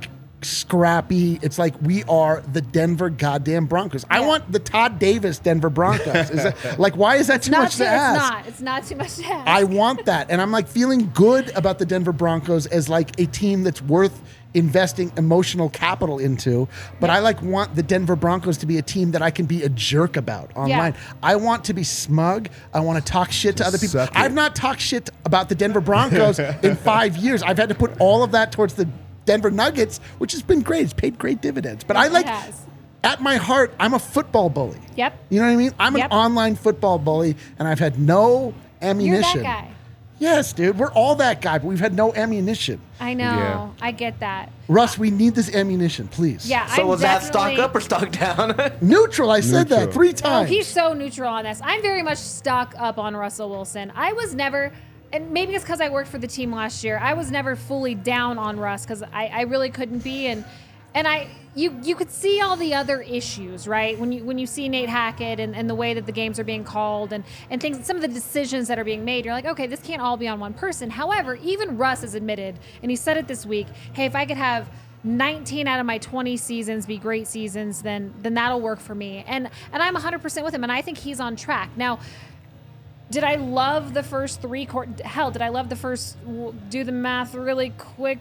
scrappy. It's like we are the Denver goddamn Broncos. I Yeah. want the Todd Davis Denver Broncos. Is that, like, why is that too Not much too, to ask? It's not. It's not too much to ask. I want that. And I'm like feeling good about the Denver Broncos as like a team that's worth investing emotional capital into. But I like want the Denver Broncos to be a team that I can be a jerk about online. I want to be smug. I want to talk shit to other people. suck it. I've not talked shit about the Denver Broncos in five years. I've had to put all of that towards the Denver Nuggets, which has been great. It's paid great dividends. But I It like, has. at my heart, I'm a football bully. Yep. You know what I mean? I'm Yep. an online football bully, and I've had no You're ammunition. that guy. Yes, dude. We're all that guy, but we've had no ammunition. I know. Yeah. I get that. Russ, we need this ammunition, please. Yeah. So I'm was that stock definitely- up or stock down? Neutral. I said that Neutral. three Oh, times. he's so neutral on this. I'm very much stuck up on Russell Wilson. I was never, and maybe it's because I worked for the team last year. I was never fully down on Russ because I, I really couldn't be, and and I you you could see all the other issues, right? When you when you see Nate Hackett and, and the way that the games are being called and and things, some of the decisions that are being made, you're like, okay, this can't all be on one person. However, even Russ has admitted, and he said it this week, hey, if I could have nineteen out of my twenty seasons be great seasons, then then that'll work for me. And and I'm one hundred percent with him, and I think he's on track. Now, did I love the first three court? Hell, did I love the first? w- Do the math really quick.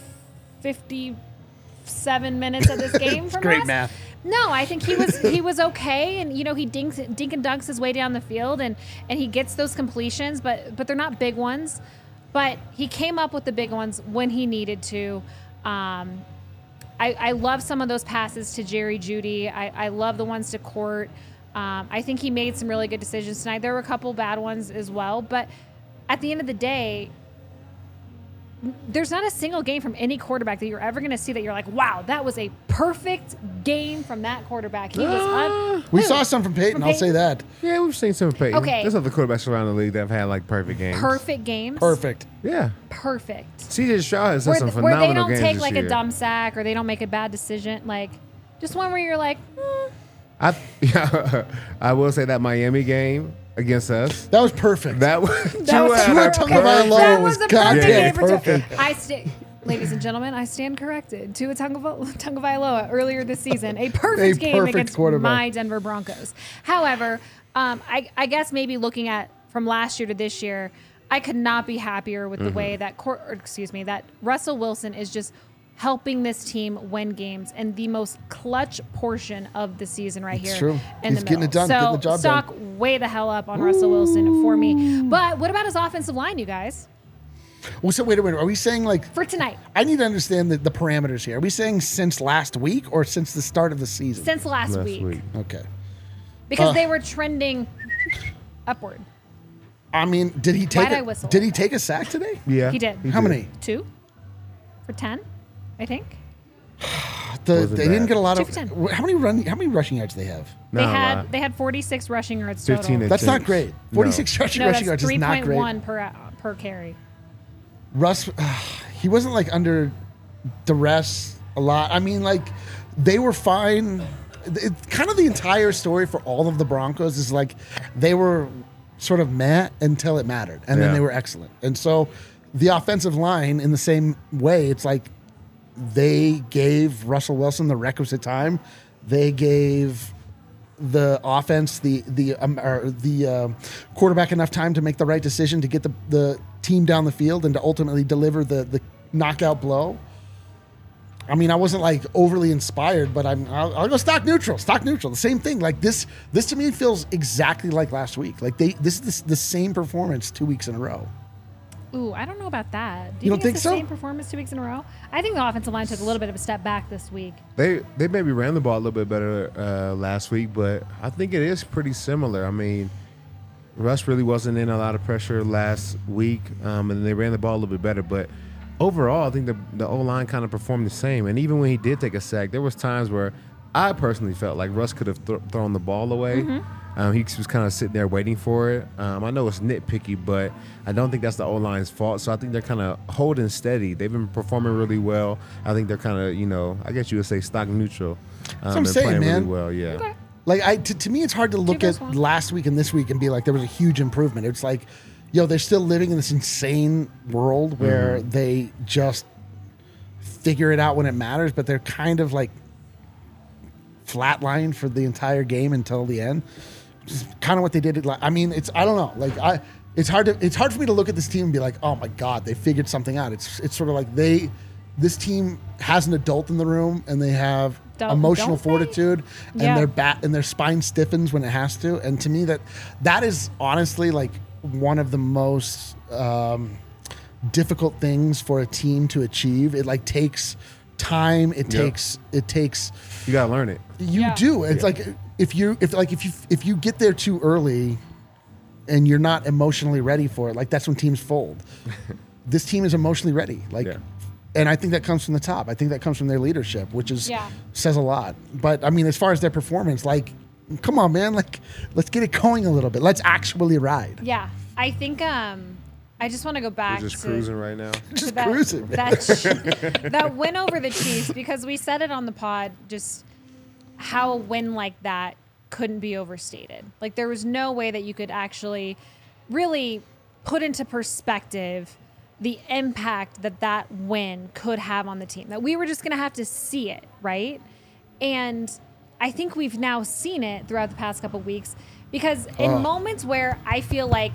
fifty-seven minutes of this game from great Russ? math. No, I think he was he was okay, and you know he dinks dink and dunks his way down the field, and and he gets those completions, but but they're not big ones. But he came up with the big ones when he needed to. Um, I, I love some of those passes to Jerry Jeudy. I, I love the ones to Court. Um, I think he made some really good decisions tonight. There were a couple bad ones as well, but at the end of the day, there's not a single game from any quarterback that you're ever going to see that you're like, wow, that was a perfect game from that quarterback. He was un- we Who? saw some from Peyton, From I'll say Peyton? that. Yeah, we've seen some of Peyton. Okay. There's other quarterbacks around the league that have had like perfect games. perfect games. Perfect. Yeah. Perfect. C J Stroud has had Where, some th- where phenomenal they don't games take this like year. a dumb sack or they don't make a bad decision. Like, just one where you're like, hmm. I, yeah, I will say that Miami game against us. That was perfect. That was That was Tua a had a Tua perfect- Tagovailoa that was was a goddamn perfect game for perfect. Tua. I sta- Ladies and gentlemen, I stand corrected. Tua Tagovailoa Tagovailoa earlier this season, a perfect A game perfect against quarterback. my Denver Broncos. However, um, I, I guess maybe looking at from last year to this year, I could not be happier with the Mm-hmm. way that Cor- or excuse me that Russell Wilson is just helping this team win games and the most clutch portion of the season right It's here. true. In He's the getting it middle. done, So getting the job stock done. way the hell up on Russell Wilson for me. But what about his offensive line, you guys, Well, so wait a minute. Are we saying like? for tonight? I need to understand the, the parameters here. Are we saying since last week or since the start of the season? Since last, last week. week. Okay. Because Uh. they were trending upward. I mean, did he take? Why'd I A, whistle? did he take a sack today? Yeah, He did. How many? Two for ten, I think. The, Wasn't they didn't bad. get a lot Two of. for ten. How many run? How many rushing yards do they have? They Not a had lot. they had forty-six rushing yards fifteen total. and That's not Thanks. great. Forty-six rushing No, rushing that's yards is three not point great. one per uh, per carry. Russ, he wasn't like under duress a lot. I mean, like they were fine. It, kind of the entire story for all of the Broncos is like they were sort of meh until it mattered, and then Yeah. they were excellent. And so the offensive line, in the same way, it's like they gave Russell Wilson the requisite time. They gave the offense, the the um, or the uh, quarterback enough time to make the right decision to get the, the team down the field and to ultimately deliver the the knockout blow. I mean, I wasn't like overly inspired, but I'm I'll, I'll go stock neutral. Stock neutral, the same thing. Like this, this to me feels exactly like last week. Like they this is the, the same performance two weeks in a row. Ooh, I don't know about that. Do You you, don't think, think it's the so? same performance two weeks in a row? I think the offensive line took a little bit of a step back this week. They they maybe ran the ball a little bit better uh, last week, but I think it is pretty similar. I mean, Russ really wasn't in a lot of pressure last week, um, and they ran the ball a little bit better. But overall, I think the the O line kind of performed the same. And even when he did take a sack, there was times where I personally felt like Russ could have th- thrown the ball away. Mm-hmm. Um, he was kind of sitting there waiting for it. Um, I know it's nitpicky, but I don't think that's the O line's fault. So I think they're kind of holding steady. They've been performing really well. I think they're kind of, you know, I guess you would say stock neutral. Um, what I'm and saying, playing man. really well, yeah. Okay. Like I, to, to me, it's hard to look at versus one. last week and this week and be like, there was a huge improvement. It's like, yo, they're still living in this insane world where Mm-hmm. they just figure it out when it matters, but they're kind of like flatlined for the entire game until the end. Just kind of what they did. At, I mean, it's I don't know. Like I, it's hard to it's hard for me to look at this team and be like, oh my god, they figured something out. It's it's sort of like they, this team has an adult in the room and they have Don't- emotional don't they? fortitude and Yeah. their bat and their spine stiffens when it has to. And to me, that that is honestly like one of the most um, difficult things for a team to achieve. It like takes time. It Yep. takes it takes. You gotta learn it. You Yeah. do. It's Yeah. like if you if like if you if you get there too early and you're not emotionally ready for it, like that's when teams fold. This team is emotionally ready. Like Yeah. and I think that comes from the top. I think that comes from their leadership, which is Yeah. says a lot. But I mean, as far as their performance, like come on, man, like let's get it going a little bit. Let's actually ride. Yeah, I think um, I just want to go back You're just to, cruising right now. to Just that, cruising, man. that, that win over the Chiefs, because we said it on the pod, just how a win like that couldn't be overstated. Like there was no way that you could actually really put into perspective the impact that that win could have on the team. That we were just going to have to see it, right? And I think we've now seen it throughout the past couple weeks, because in Oh. moments where I feel like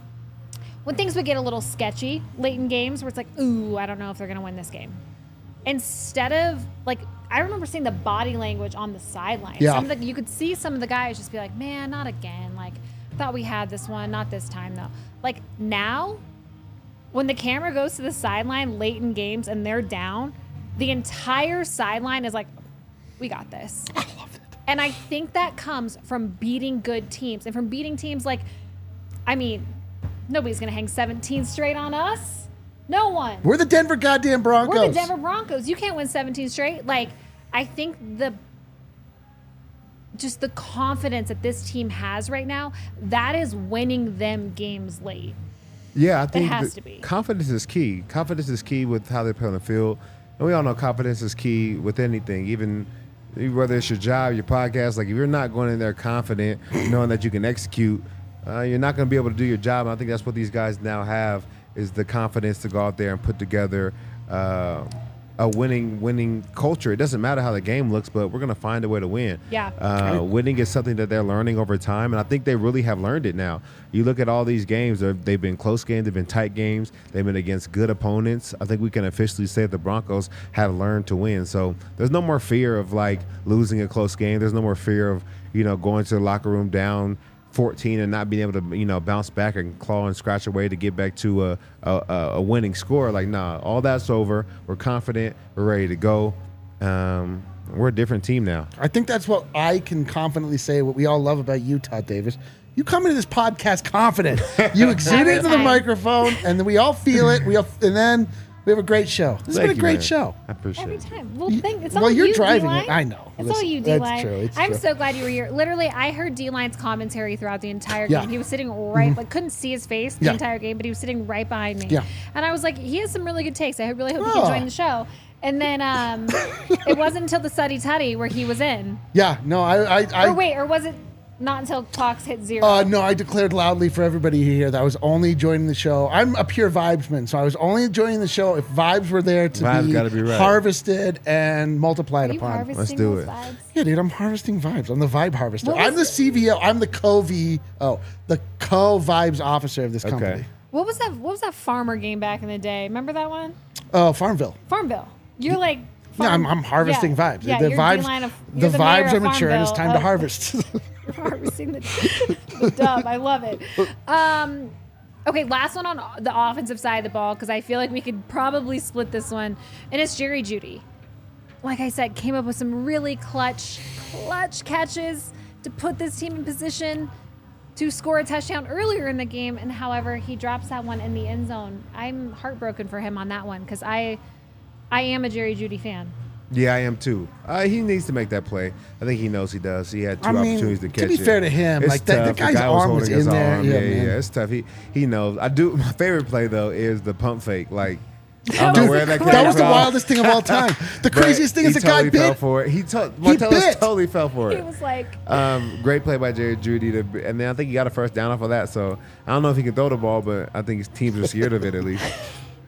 when things would get a little sketchy late in games where it's like, ooh, I don't know if they're going to win this game. Instead of, like, I remember seeing the body language on the sideline. Yeah. Some of the, you could see some of the guys just be like, man, not again. Like, thought we had this one, not this time, though. Like, now, when the camera goes to the sideline late in games and they're down, the entire sideline is like, we got this. I love it. And I think that comes from beating good teams and from beating teams like, I mean, nobody's going to hang seventeen straight on us. No one. We're the Denver goddamn Broncos. We're the Denver Broncos. You can't win seventeen straight. Like, I think the just the confidence that this team has right now, that is winning them games late. Yeah, I think has the- to be. confidence is key. Confidence is key with how they play on the field, and we all know confidence is key with anything, even whether it's your job, your podcast. Like if you're not going in there confident, knowing that you can execute, uh, you're not going to be able to do your job. And I think that's what these guys now have is the confidence to go out there and put together uh, a winning winning culture. It doesn't matter how the game looks, but we're going to find a way to win. Yeah. Uh, winning is something that they're learning over time, and I think they really have learned it now. You look at all these games; they're- they've been close games, they've been tight games, they've been against good opponents. I think we can officially say the Broncos have learned to win. So there's no more fear of like losing a close game. There's no more fear of you know going to the locker room down fourteen and not being able to you know bounce back and claw and scratch away to get back to a a, a winning score. Like nah, all that's over. We're confident. We're ready to go. Um, we're a different team now. I think that's what I can confidently say. What we all love about you, Todd Davis. You come into this podcast confident. You exude Every it into the time. microphone, and then we all feel it. We all, and then we have a great show. This has Thank been a you, great man. show. I appreciate Every it. time. Well, You- thank, it's well, all you're you, driving D-line. it. I know. It's Listen, all you, that's D-line. true. It's I'm true. so glad you were here. Literally, I heard D-line's commentary throughout the entire Yeah. game. He was sitting right, like, couldn't see his face the Yeah. entire game, but he was sitting right behind me. Yeah. And I was like, he has some really good takes. I really hope he Oh. can join the show. And then um, it wasn't until the Suddy Tutty where he was in. Yeah, no, I, I, I Or wait, or was it not until clocks hit zero? Uh, no, I declared loudly for everybody here that I was only joining the show. I'm a pure vibesman, so I was only joining the show if vibes were there to Vibes be, gotta be right. harvested and multiplied Are you upon. harvesting Let's do those it. vibes? Yeah, dude, I'm harvesting vibes. I'm the vibe harvester. What was I'm the it? C V O. I'm the co-V. Oh, the co-vibes officer of this Okay. company. What was that? What was that farmer game back in the day? Remember that one? Oh, Farmville. Farmville. You're like. Yeah, I'm, farm- I'm harvesting yeah. vibes. Yeah, the you're vibes, D-line of, the you're the mayor vibes of are mature, and it's Farmville. time to Oh. harvest. You're harvesting the, the dub. I love it. Um, okay, last one on the offensive side of the ball, because I feel like we could probably split this one, and it's Jerry Jeudy. Like I said, came up with some really clutch, clutch catches to put this team in position to score a touchdown earlier in the game, and however, he drops that one in the end zone. I'm heartbroken for him on that one, because I, I am a Jerry Jeudy fan. Yeah, I am too. Uh, he needs to make that play. I think he knows he does. He had two I mean, opportunities to to catch be it. fair to him, It's like, that- the tough. guy's guy was arm was holding his in there. arm. Yeah, Yeah, yeah, man. it's tough. He he knows. I do. My favorite play though is the pump fake. Like I don't know Dude, where that came that was the from, wildest thing of all time. The but craziest thing he is the totally guy fell bit. for it. He to- He Martellus bit. totally fell for He it. was like, Um, great play by Jerry Jeudy, to, and then I think he got a first down off of that. So I don't know if he can throw the ball, but I think his teams are scared of it at least.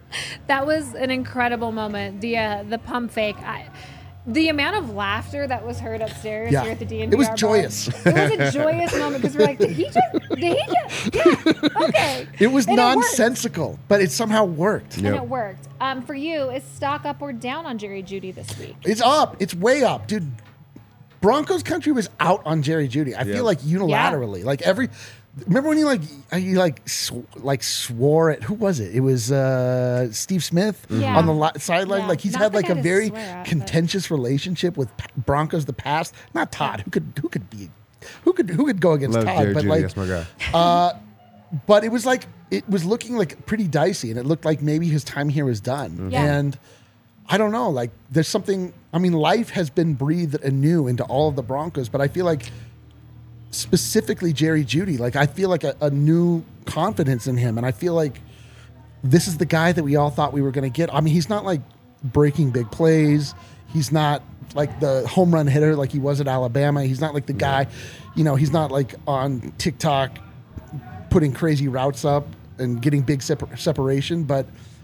That was an incredible moment. The uh, the pump fake. I, the amount of laughter that was heard upstairs Yeah. here at the D N V R It was bar, joyous. It was a joyous moment because we're like, did he just? Did he just? Yeah. Okay. It was And worked. nonsensical, but it somehow worked. And Yep. it worked. Um, for you, is stock up or down on Jerry Jeudy this week? It's up. It's way up, dude. Broncos country was out on Jerry Jeudy. I Yeah. feel like unilaterally, like every. Remember when he like he like sw- like swore at who was it? It was uh, Steve Smith Yeah. on the li- sideline. Yeah. Like he's Not had the like guy a to very swear at, but- contentious relationship with P- Broncos the past. Not Todd. Who could who could be who could who could go against Love Todd? Jerry but Jeudy. like That's my guy. but it was like it was looking like pretty dicey, and it looked like maybe his time here was done. Yeah. And I don't know, like there's something. I mean, life has been breathed anew into all of the Broncos, but I feel like specifically Jerry Jeudy, like I feel like a, a new confidence in him, and I feel like this is the guy that we all thought we were going to get. I mean, he's not like breaking big plays. He's not like the home run hitter like he was at Alabama. He's not like the guy, you know, he's not like on TikTok putting crazy routes up and getting big separ- separation, but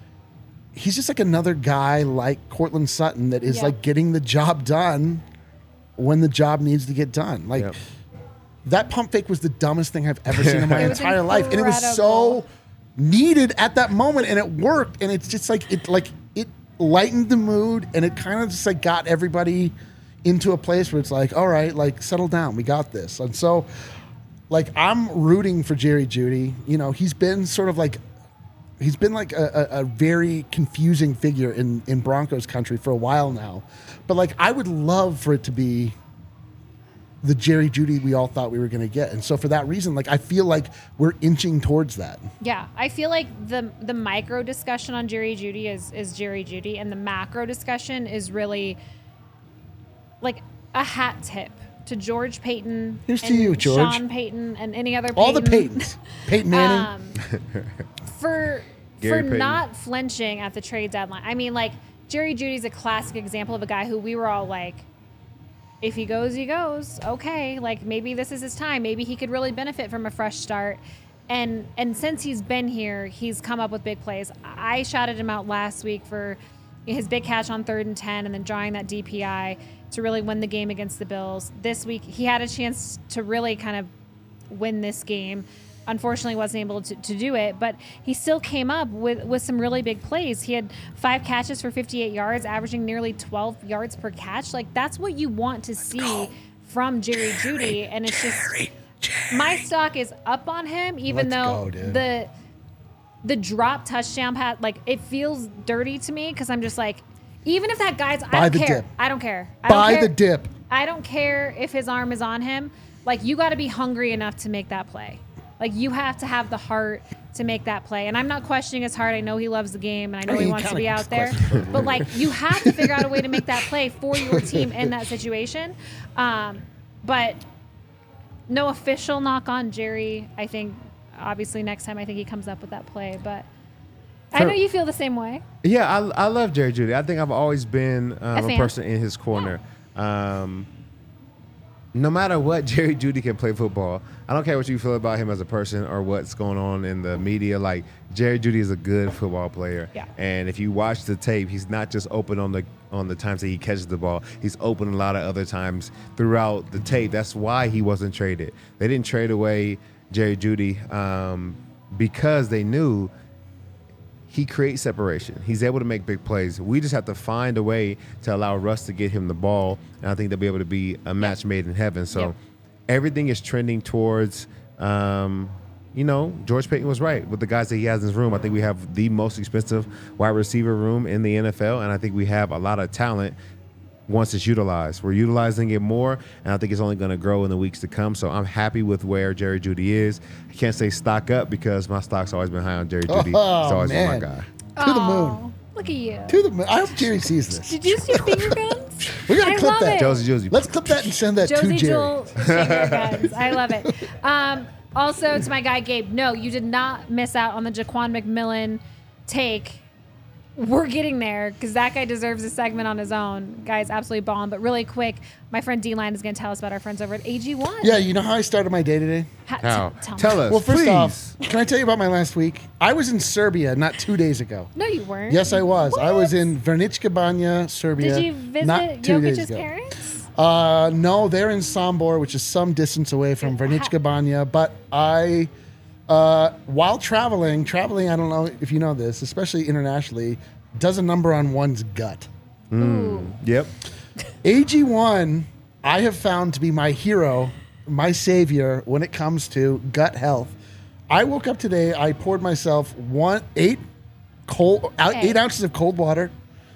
he's just like another guy like Cortland Sutton that is Yeah. like getting the job done when the job needs to get done. Like Yep. that pump fake was the dumbest thing I've ever seen in my It was entire life, and it was so incredible. needed at that moment, and it worked. And it's just like it like it lightened the mood, and it kind of just like got everybody into a place where it's like, all right, like settle down, we got this. And so like I'm rooting for Jerry Jeudy. You know, he's been sort of like he's been like a, a, a very confusing figure in, in Broncos country for a while now. But like I would love for it to be the Jerry Jeudy we all thought we were going to get. And so for that reason, like I feel like we're inching towards that. Yeah, I feel like the the micro discussion on Jerry Jeudy is is Jerry Jeudy, and the macro discussion is really like a hat tip to George Payton. Here's to and you, George. Sean Payton, and any other Payton. All the Paytons. Peyton Manning. Um, for Gary for Payton. not flinching at the trade deadline. I mean, like Jerry Judy's a classic example of a guy who we were all like, if he goes, he goes. Okay, like maybe this is his time. Maybe he could really benefit from a fresh start. And and since he's been here, he's come up with big plays. I shouted him out last week for his big catch on third and ten, and then drawing that D P I to really win the game against the Bills. This week, he had a chance to really kind of win this game. Unfortunately, wasn't able to, to do it, but he still came up with, with some really big plays. He had five catches for fifty-eight yards, averaging nearly twelve yards per catch. Like, that's what you want to see from Jerry Jeudy. And it's just, my stock is up on him, even Let's though go, dude. the the drop touchdown pass, like, it feels dirty to me because I'm just like, even if that guy's, I Buy don't the care. dip. I don't care. I Buy don't care. the dip. I don't care if his arm is on him. Like, you got to be hungry enough to make that play. Like, you have to have the heart to make that play. And I'm not questioning his heart. I know he loves the game, and I know I mean, he you wants to kinda be out there. question- But, like, you have to figure out a way to make that play for your team in that situation. Um, but no official knock on Jerry. I think, obviously, next time I think he comes up with that play. But I For- know you feel the same way. Yeah, I, I love Jerry Jeudy. I think I've always been um, a, fan. person in his corner. Um, no matter what, Jerry Jeudy can play football. I don't care what you feel about him as a person or what's going on in the media. Like, Jerry Jeudy is a good football player. Yeah. And if you watch the tape, he's not just open on the on the times that he catches the ball. He's open a lot of other times throughout the tape. That's why he wasn't traded. They didn't trade away Jerry Jeudy um, because they knew he creates separation. He's able to make big plays. We just have to find a way to allow Russ to get him the ball, and I think they'll be able to be a match made in heaven. So Yep. everything is trending towards, um, you know, George Payton was right with the guys that he has in his room. I think we have the most expensive wide receiver room in the N F L, and I think we have a lot of talent once it's utilized. We're utilizing it more, and I think it's only going to grow in the weeks to come. So I'm happy with where Jerry Jeudy is. I can't say stock up because my stock's always been high on Jerry Jeudy. Oh, He's always man. been my guy. To the Aw, moon. Look at you. To the moon. I hope Jerry sees this. Did you see finger guns? We gotta I clip love that. it. Josie Josie. Let's clip that and send that to Josie Jerry. Jewel finger guns. I love it. Um, also, to my guy Gabe, no, you did not miss out on the Jaquan McMillan take we're getting there because that guy deserves a segment on his own. Guy's absolutely balling. But really quick, my friend D-Line is going to tell us about our friends over at A G one. Yeah, you know how I started my day today? Ha- How? t- tell, Tell me. us, Well, first please. off, can I tell you about my last week? I was in Serbia not two days ago. No, you weren't. Yes, I was. I was What? in Vernička Banja, Serbia. Did you visit not two days Jokic's ago. parents? Uh, no, they're in Sombor, which is some distance away from Vernička Banja. But I, uh, while traveling, traveling, I don't know if you know this, especially internationally, does a number on one's gut. Ooh. Yep. A G one, I have found to be my hero, my savior when it comes to gut health. I woke up today, I poured myself one eight cold out Okay. eight ounces of cold water.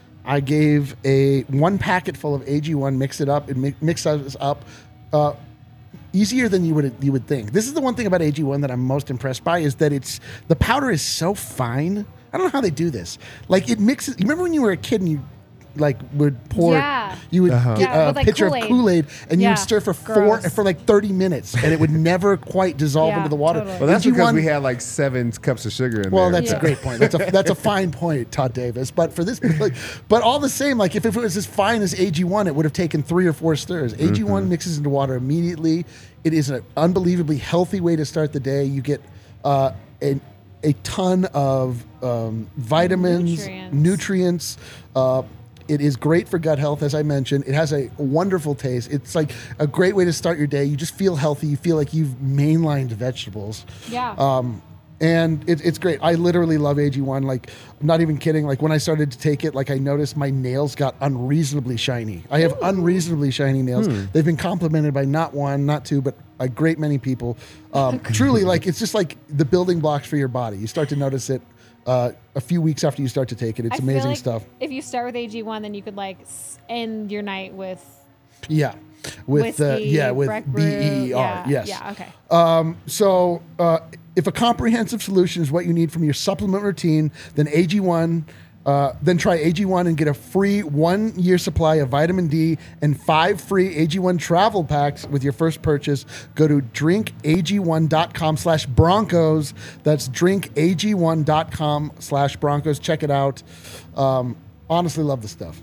I gave a one packet full of A G one, mix it up, and mi- mix us up. Uh, easier than you would you would think. This is the one thing about A G one that I'm most impressed by is that it's the powder is so fine. I don't know how they do this. Like it mixes. You remember when you were a kid and you like would pour, Yeah. you would Uh-huh. get Yeah, a with, like, pitcher Kool-Aid. of Kool-Aid and you Yeah, would stir for four gross. for like thirty minutes and it would never quite dissolve Yeah, into the water. totally. Well, that's A G one because we had like seven cups of sugar in well, there. that's Yeah. a great point. That's a that's a fine point, Todd Davis. But for this, like, but all the same, like if, if it was as fine as A G one, it would have taken three or four stirs. A G one mixes into water immediately. It is an unbelievably healthy way to start the day. You get uh, a a ton of um, vitamins, Nutrients. nutrients. Uh, it is great for gut health, as I mentioned. It has a wonderful taste. It's like a great way to start your day. You just feel healthy. You feel like you've mainlined vegetables. Yeah. Um, and it, it's great. I literally love A G one. Like, I'm not even kidding. Like when I started to take it, like I noticed my nails got unreasonably shiny. I have unreasonably shiny nails. They've been complimented by not one, not two, but a great many people. Um, truly, like it's just like the building blocks for your body. You start to notice it uh, a few weeks after you start to take it. It's I feel amazing like stuff. If you start with A G one, then you could like s- end your night with Yeah, with uh, whiskey, yeah with Breck B Brew. E R. Yeah, Yes. Yeah. Okay. Um, so, uh, if a comprehensive solution is what you need from your supplement routine, then A G one, uh, then try A G one and get a free one-year supply of vitamin D and five free A G one travel packs with your first purchase. Go to drink A G one dot com slash Broncos. That's drink A G one dot com slash Broncos. Check it out. Um, honestly, love the stuff.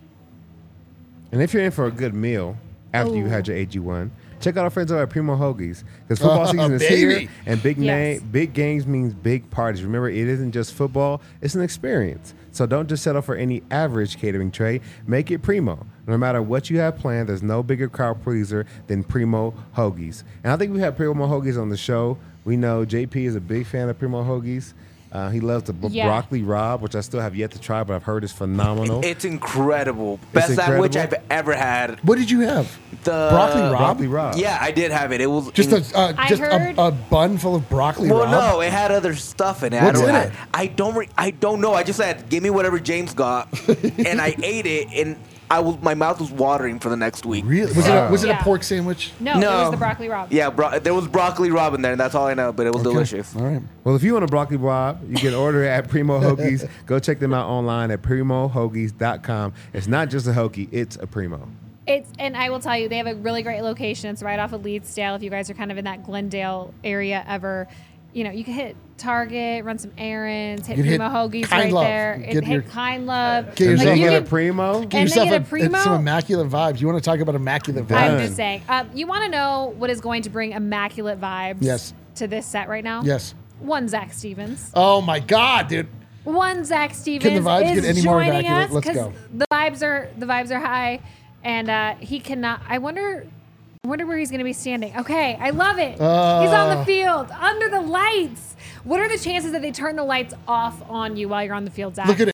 And if you're in for a good meal after you had your A G one, check out our friends over at Primo Hoagies because football Uh, season is baby. here, and big Yes. name, big games means big parties. Remember, it isn't just football; it's an experience. So don't just settle for any average catering tray. Make it Primo. No matter what you have planned, there's no bigger crowd pleaser than Primo Hoagies. And I think we have Primo Hoagies on the show. We know J P is a big fan of Primo Hoagies. Uh, he loves the b- Yeah. broccoli rabe, which I still have yet to try, but I've heard is phenomenal. It's incredible. Best incredible? sandwich I've ever had. What did you have? The Broccoli rabe? broccoli rabe. Yeah, I did have it. It was Just in- a uh, I just heard- a, a bun full of broccoli well, rabe? no, it had other stuff in it. What's I don't, in I, it? I don't. Re- I don't know. I just said, give me whatever James got, and I ate it, and I was my mouth was watering for the next week. Really? Was it a, was it Yeah. a pork sandwich? No, it No. was the broccoli rabe. Yeah, bro- there was broccoli rabe in there, and that's all I know. But it was Okay. delicious. All right. Well, if you want a broccoli rabe, you can order it at Primo Hoagies. Go check them out online at primo hoagies dot com. It's not just a hoagie, it's a Primo. It's and I will tell you, they have a really great location. It's right off of Leedsdale. If you guys are kind of in that Glendale area ever, you know, you can hit Target, run some errands, hit You can hit Primo Hoagies Kind right Love. there, Get and your- hit Kind Love. Get yourself Like, you a can- Primo. Get And then yourself get a a, Primo? some immaculate vibes. You want to talk about immaculate vibes? I'm Done. just saying. Uh, you want to know what is going to bring immaculate vibes Yes. to this set right now? Yes. One Zach Stevens. Oh my God, dude. One Zach Stevens vibes is get any more joining immaculate? us Let's 'cause go. the vibes are the vibes are high, and uh, he cannot. I wonder. I wonder where he's going to be standing. Okay, I love it. he's on the Uh. field under the lights. What are the chances that they turn the lights off on you while you're on the field, Zach? Look at it.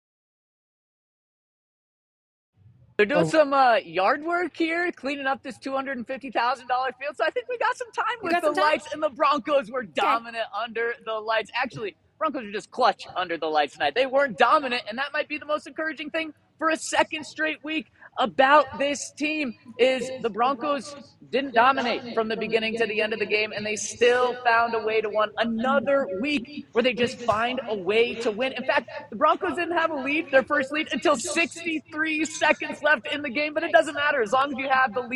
They're doing Oh. some uh, yard work here, cleaning up this two hundred fifty thousand dollars field. So I think we got some time We with got the some time? lights, and the Broncos were dominant under the lights. Actually, Broncos were just clutch under the lights tonight. They weren't dominant, and that might be the most encouraging thing for a second straight week about this team is the Broncos didn't dominate from the beginning to the end of the game, and they still found a way to win another week where they just find a way to win. In fact, the Broncos didn't have a lead, their first lead, until sixty-three seconds left in the game, but it doesn't matter. As long as you have the lead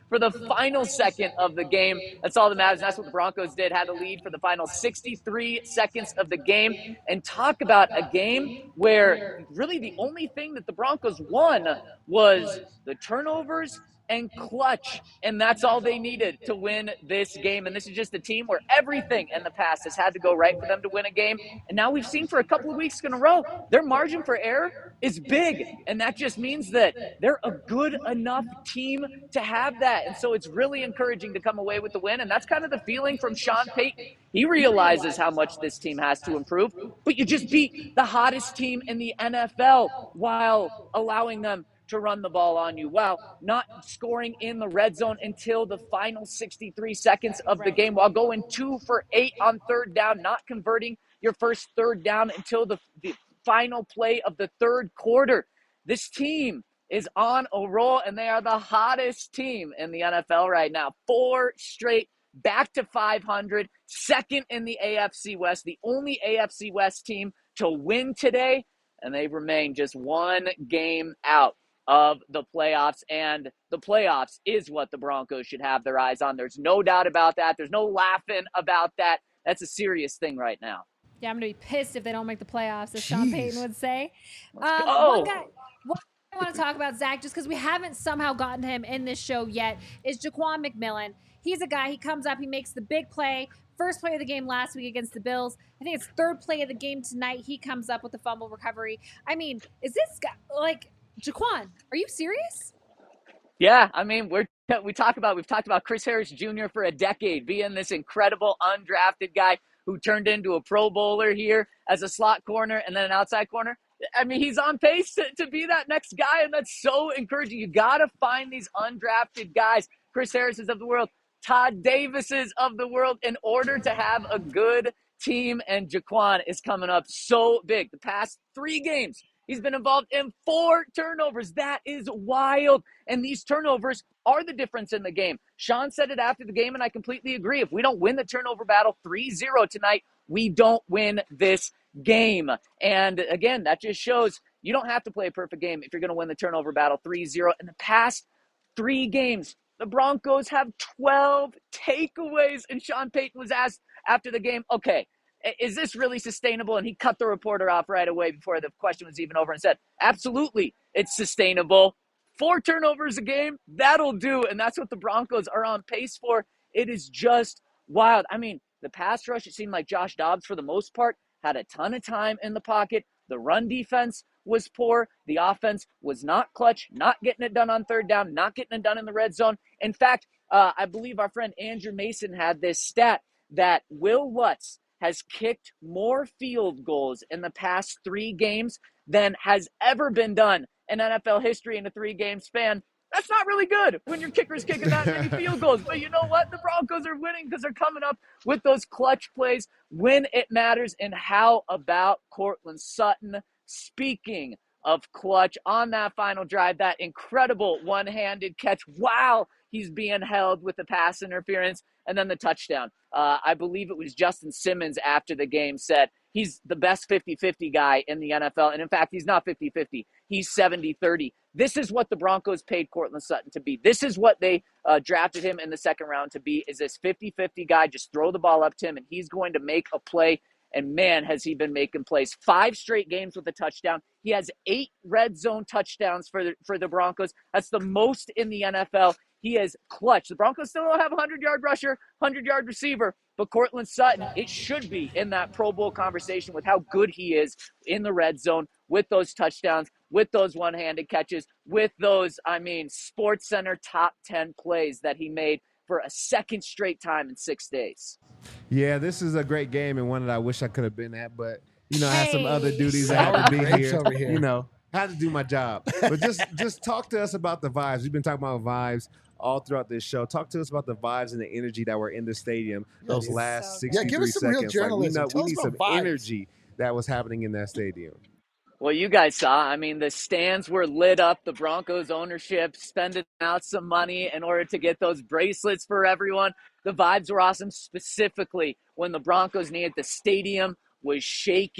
for the final second of the game. That's all that matters. That's what the Broncos did, had a lead for the final sixty-three seconds of the game. And talk about a game where really the only thing that the Broncos won was the turnovers and clutch, and that's all they needed to win this game. And this is just a team where everything in the past has had to go right for them to win a game. And now we've seen for a couple of weeks in a row, their margin for error is big, and that just means that they're a good enough team to have that. And so it's really encouraging to come away with the win, and that's kind of the feeling from Sean Payton. He realizes how much this team has to improve, but you just beat the hottest team in the N F L while allowing them to run the ball on you, while not scoring in the red zone until the final sixty-three seconds of the game, while going two for eight on third down, not converting your first third down until the, the final play of the third quarter. This team is on a roll, and they are the hottest team in the N F L right now. Four straight, back to five hundred, second in the A F C West, the only A F C West team to win today, and they remain just one game out of the playoffs, and the playoffs is what the Broncos should have their eyes on. There's no doubt about that. There's no laughing about that. That's a serious thing right now. Yeah, I'm going to be pissed if they don't make the playoffs, as Sean Jeez. Payton would say. Let's Um, go. one guy, one I want to talk about, Zach, just because we haven't somehow gotten him in this show yet, is Jaquan McMillan. He's a guy, he comes up, he makes the big play. First play of the game last week against the Bills. I think it's third play of the game tonight. He comes up with the fumble recovery. I mean, is this guy, like, Jaquan, are you serious? Yeah, I mean, we're we talk about we've talked about Chris Harris Junior for a decade, being this incredible undrafted guy who turned into a Pro Bowler here as a slot corner and then an outside corner. I mean, he's on pace to, to be that next guy, and that's so encouraging. You got to find these undrafted guys, Chris Harris's of the world, Todd Davis's of the world, in order to have a good team, and Jaquan is coming up so big. The past three games, he's been involved in four turnovers. That is wild. And these turnovers are the difference in the game. Sean said it after the game, and I completely agree. If we don't win the turnover battle three zero tonight, we don't win this game. And again, that just shows you don't have to play a perfect game if you're going to win the turnover battle three zero. In the past three games, the Broncos have twelve takeaways. And Sean Payton was asked after the game, okay, is this really sustainable? And he cut the reporter off right away before the question was even over and said, absolutely, it's sustainable. Four turnovers a game, that'll do. And that's what the Broncos are on pace for. It is just wild. I mean, the pass rush, it seemed like Josh Dobbs, for the most part, had a ton of time in the pocket. The run defense was poor. The offense was not clutch, not getting it done on third down, not getting it done in the red zone. In fact, uh, I believe our friend Andrew Mason had this stat that Will Lutz has kicked more field goals in the past three games than has ever been done in N F L history in a three-game span. That's not really good when your kicker's kicking that many field goals. But you know what? The Broncos are winning because they're coming up with those clutch plays when it matters. And how about Courtland Sutton? Speaking of clutch, on that final drive, that incredible one-handed catch while he's being held with the pass interference, and then the touchdown. Uh, I believe it was Justin Simmons after the game said he's the best fifty-fifty guy in the N F L. And in fact, he's not fifty-fifty. He's seventy thirty. This is what the Broncos paid Courtland Sutton to be. This is what they uh, drafted him in the second round to be, is this fifty-fifty guy. Just throw the ball up to him, and he's going to make a play. And man, has he been making plays. Five straight games with a touchdown. He has eight red zone touchdowns for the, for the Broncos. That's the most in the N F L. He is clutch. The Broncos still don't have a hundred-yard rusher, hundred-yard receiver, but Courtland Sutton, it should be in that Pro Bowl conversation with how good he is in the red zone with those touchdowns, with those one-handed catches, with those, I mean, Sports Center top ten plays that he made for a second straight time in six days. Yeah, this is a great game and one that I wish I could have been at, but, you know, I had some Hey. other duties. I had to be Grapes here. over here. You know, I had to do my job. But just just talk to us about the vibes. We've been talking about vibes all throughout this show. Talk to us about the vibes and the energy that were in the stadium those dude. last So sixty-three Yeah, give us some real seconds. journalism. Like, Tell we, know, we us need some about vibes. energy that was happening in that stadium. Well, you guys saw, I mean, the stands were lit up. The Broncos ownership spending out some money in order to get those bracelets for everyone. The vibes were awesome, specifically when the Broncos needed. The stadium was shaking,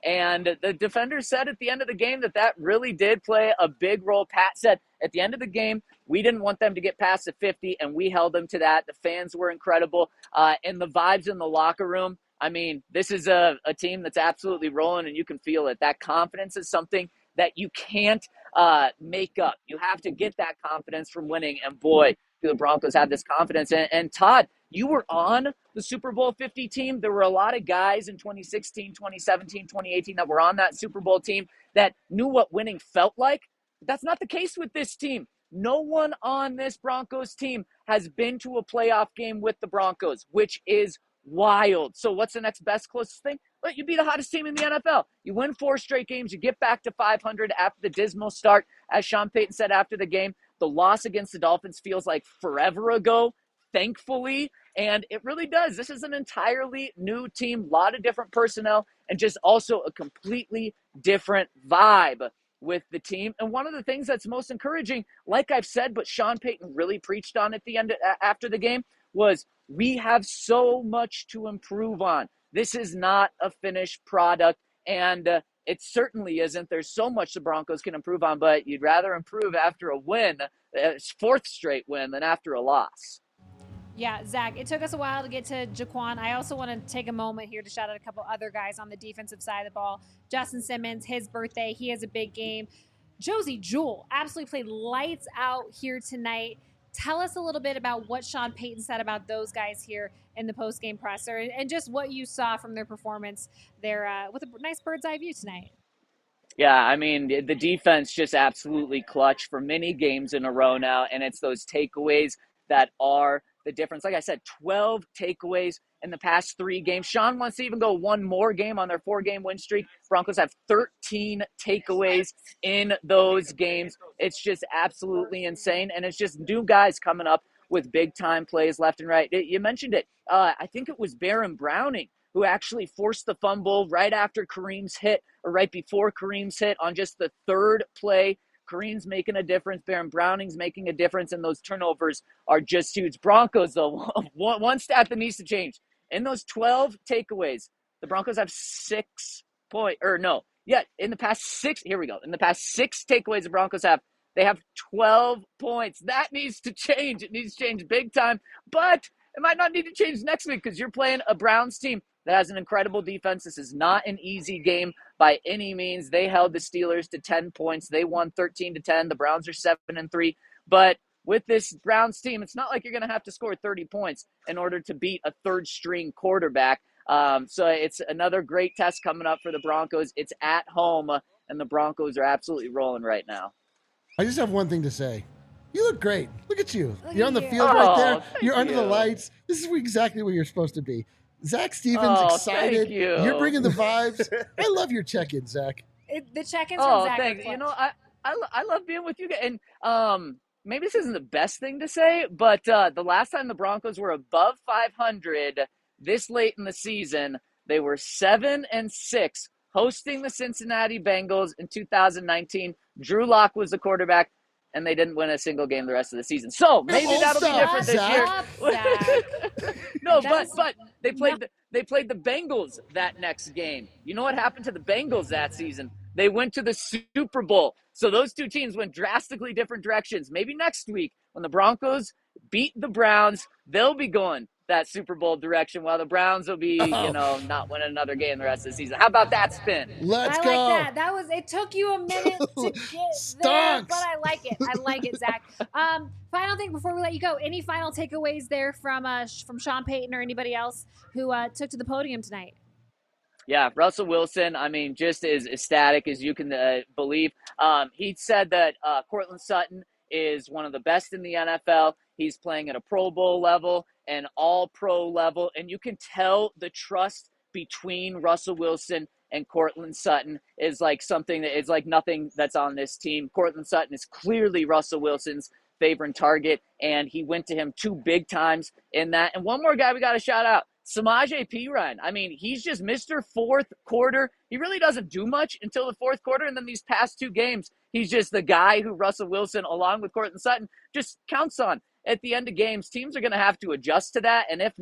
And the defenders said at the end of the game that that really did play a big role. Pat said at the end of the game, we didn't want them to get past the fifty, and we held them to that. The fans were incredible. Uh, and the vibes in the locker room, I mean, this is a, a team that's absolutely rolling, and you can feel it. That confidence is something that you can't uh, make up. You have to get that confidence from winning, and boy, do the Broncos have this confidence. And, and Todd, you were on the Super Bowl fifty team. There were a lot of guys in twenty sixteen, twenty seventeen, twenty eighteen that were on that Super Bowl team that knew what winning felt like. That's not the case with this team. No one on this Broncos team has been to a playoff game with the Broncos, which is wild. So what's the next best closest thing? Well, you be the hottest team in the N F L. You win four straight games. You get back to five hundred after the dismal start. As Sean Payton said after the game, the loss against the Dolphins feels like forever ago, thankfully. And it really does. This is an entirely new team, a lot of different personnel, and just also a completely different vibe with the team. And one of the things that's most encouraging, like I've said, but Sean Payton really preached on at the end after the game, was we have so much to improve on. This is not a finished product, and uh, it certainly isn't. There's so much the Broncos can improve on, but you'd rather improve after a win, a fourth straight win, than after a loss. Yeah, Zach, it took us a while to get to Jaquan. I also want to take a moment here to shout out a couple other guys on the defensive side of the ball. Justin Simmons, his birthday, he has a big game. Josey Jewell absolutely played lights out here tonight. Tell us a little bit about what Sean Payton said about those guys here in the post-game presser and just what you saw from their performance there uh, with a nice bird's eye view tonight. Yeah, I mean, the defense just absolutely clutch for many games in a row now, and it's those takeaways that are the difference. Like I said, twelve takeaways in the past three games. Sean wants to even go one more game on their four-game win streak. Broncos have thirteen takeaways in those games. It's just absolutely insane, and it's just new guys coming up with big-time plays left and right. You mentioned it. Uh, I think it was Baron Browning who actually forced the fumble right after Kareem's hit, or right before Kareem's hit on just the third play. Kareem's making a difference. Baron Browning's making a difference, and those turnovers are just huge. Broncos, though, one, one stat that needs to change. In those twelve takeaways, the Broncos have six point, or no, yeah, in the past six, here we go. In the past six takeaways the Broncos have, they have twelve points. That needs to change. It needs to change big time, but it might not need to change next week because you're playing a Browns team that has an incredible defense. This is not an easy game by any means. They held the Steelers to ten points. They won thirteen to ten. The Browns are seven and three. But with this Browns team, it's not like you're going to have to score thirty points in order to beat a third-string quarterback. Um, so it's another great test coming up for the Broncos. It's at home, and the Broncos are absolutely rolling right now. I just have one thing to say. You look great. Look at you. Look you're at on the you. field Oh, right there. thank You're under you. the lights. This is exactly where you're supposed to be. Zach Stevens, Oh, excited. thank you. You're bringing the vibes. I love your check-in, Zach. It, the check-ins Oh, from Zach. thanks. are clutch. You know, I, I, lo- I love being with you guys. And um, maybe this isn't the best thing to say, but uh, the last time the Broncos were above five hundred this late in the season, they were seven and six hosting the Cincinnati Bengals in two thousand nineteen. Drew Lock was the quarterback, and they didn't win a single game the rest of the season. So maybe Oh, that'll be stop, different this year. Zach. Stop, Zach. No, but That's but they played not- the, they played the Bengals that next game. You know what happened to the Bengals that season? They went to the Super Bowl. So those two teams went drastically different directions. Maybe next week when the Broncos beat the Browns, they'll be going that Super Bowl direction while the Browns will be, Oh. you know, not winning another game the rest of the season. How about that spin? Let's I go. like that. That was. It took you a minute to get there, Stonks. but I like it. I like it, Zach. Um, final thing before we let you go. Any final takeaways there from uh, sh- from Sean Payton or anybody else who uh, took to the podium tonight? Yeah, Russell Wilson, I mean, just as ecstatic as you can uh, believe. Um, he said that uh, Cortland Sutton is one of the best in the N F L. He's playing at a Pro Bowl level and all-pro level, and you can tell the trust between Russell Wilson and Cortland Sutton is like something that is like nothing that's on this team. Cortland Sutton is clearly Russell Wilson's favorite target, and he went to him two big times in that. And one more guy we got to shout out, Samaje Perine. I mean, he's just Mister Fourth Quarter. He really doesn't do much until the fourth quarter, and then these past two games, he's just the guy who Russell Wilson, along with Cortland Sutton, just counts on at the end of games. Teams are going to have to adjust to that, and if not,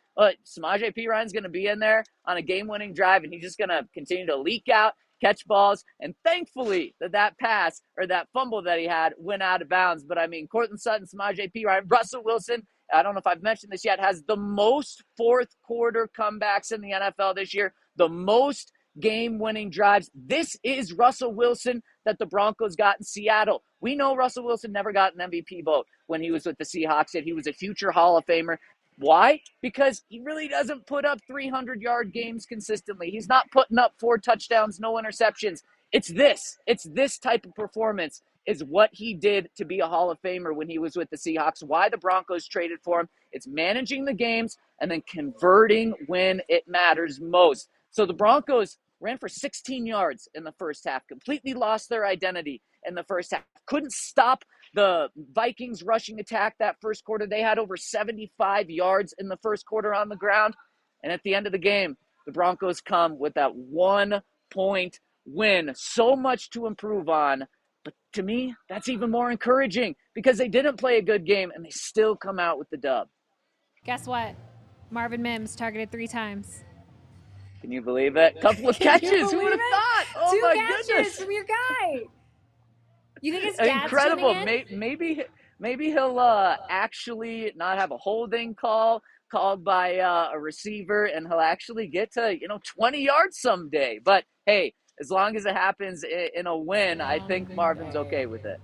But Samaje Perine's going to be in there on a game-winning drive, and he's just going to continue to leak out, catch balls, and thankfully that that pass or that fumble that he had went out of bounds. But, I mean, Courtland Sutton, Samaje Perine, Russell Wilson, I don't know if I've mentioned this yet, has the most fourth-quarter comebacks in the N F L this year, the most game-winning drives. This is Russell Wilson that the Broncos got in Seattle. We know Russell Wilson never got an M V P vote when he was with the Seahawks, and he was a future Hall of Famer. Why? Because he really doesn't put up three hundred yard games consistently. He's not putting up four touchdowns, no interceptions. It's this. It's this type of performance is what he did to be a Hall of Famer when he was with the Seahawks. Why the Broncos traded for him. It's managing the games and then converting when it matters most. So the Broncos ran for sixteen yards in the first half, completely lost their identity in the first half. Couldn't stop the Vikings rushing attack that first quarter. They had over seventy-five yards in the first quarter on the ground. And at the end of the game, the Broncos come with that one-point win. So much to improve on. But to me, that's even more encouraging because they didn't play a good game and they still come out with the dub. Guess what? Marvin Mims targeted three times. Can you believe it? Couple of catches. Who would have it? thought? Oh, Two my catches goodness. from your guy. You think his dad's Incredible. tuning in? Maybe, maybe, maybe he'll uh, actually not have a holding call called by uh, a receiver, and he'll actually get to, you know, twenty yards someday. But, hey, as long as it happens in a win, I think Marvin's okay with it.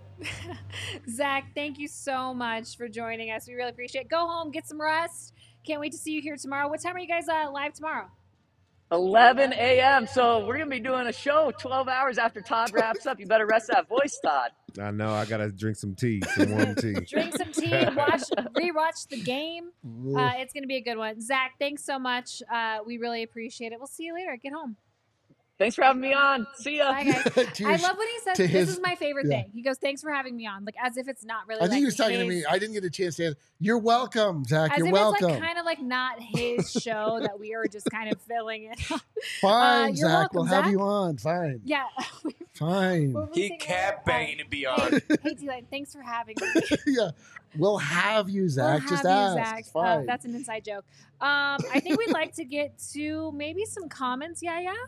Zach, thank you so much for joining us. We really appreciate it. Go home, get some rest. Can't wait to see you here tomorrow. What time are you guys uh, live tomorrow? eleven a.m. So we're going to be doing a show twelve hours after Todd wraps up. You better rest that voice, Todd. I know. I got to drink some tea, some warm tea. Drink some tea, watch, rewatch the game. Uh, it's going to be a good one. Zach, thanks so much. Uh, we really appreciate it. We'll see you later. Get home. Thanks for having me on. See ya. Bye, guys. To I your- love when he says, to this his- is my favorite yeah. thing. He goes, thanks for having me on. Like, as if it's not really I think like he was talking to his- me. I didn't get a chance to answer. You're welcome, Zach. As You're if welcome. it's like kind of like not his show that we are just kind of filling it. Fine, Uh, you're Zach. welcome, we'll have Zach. you on. Fine. Yeah. Fine. What were we He saying kept earlier? begging to be Uh, on. Hey, D-Line, thanks for having me. Yeah. We'll have you, Zach. We'll Just have ask. you, It's Zach. Uh, fine. that's an inside joke. Um, I think we'd like to get to maybe some comments. Yeah, yeah.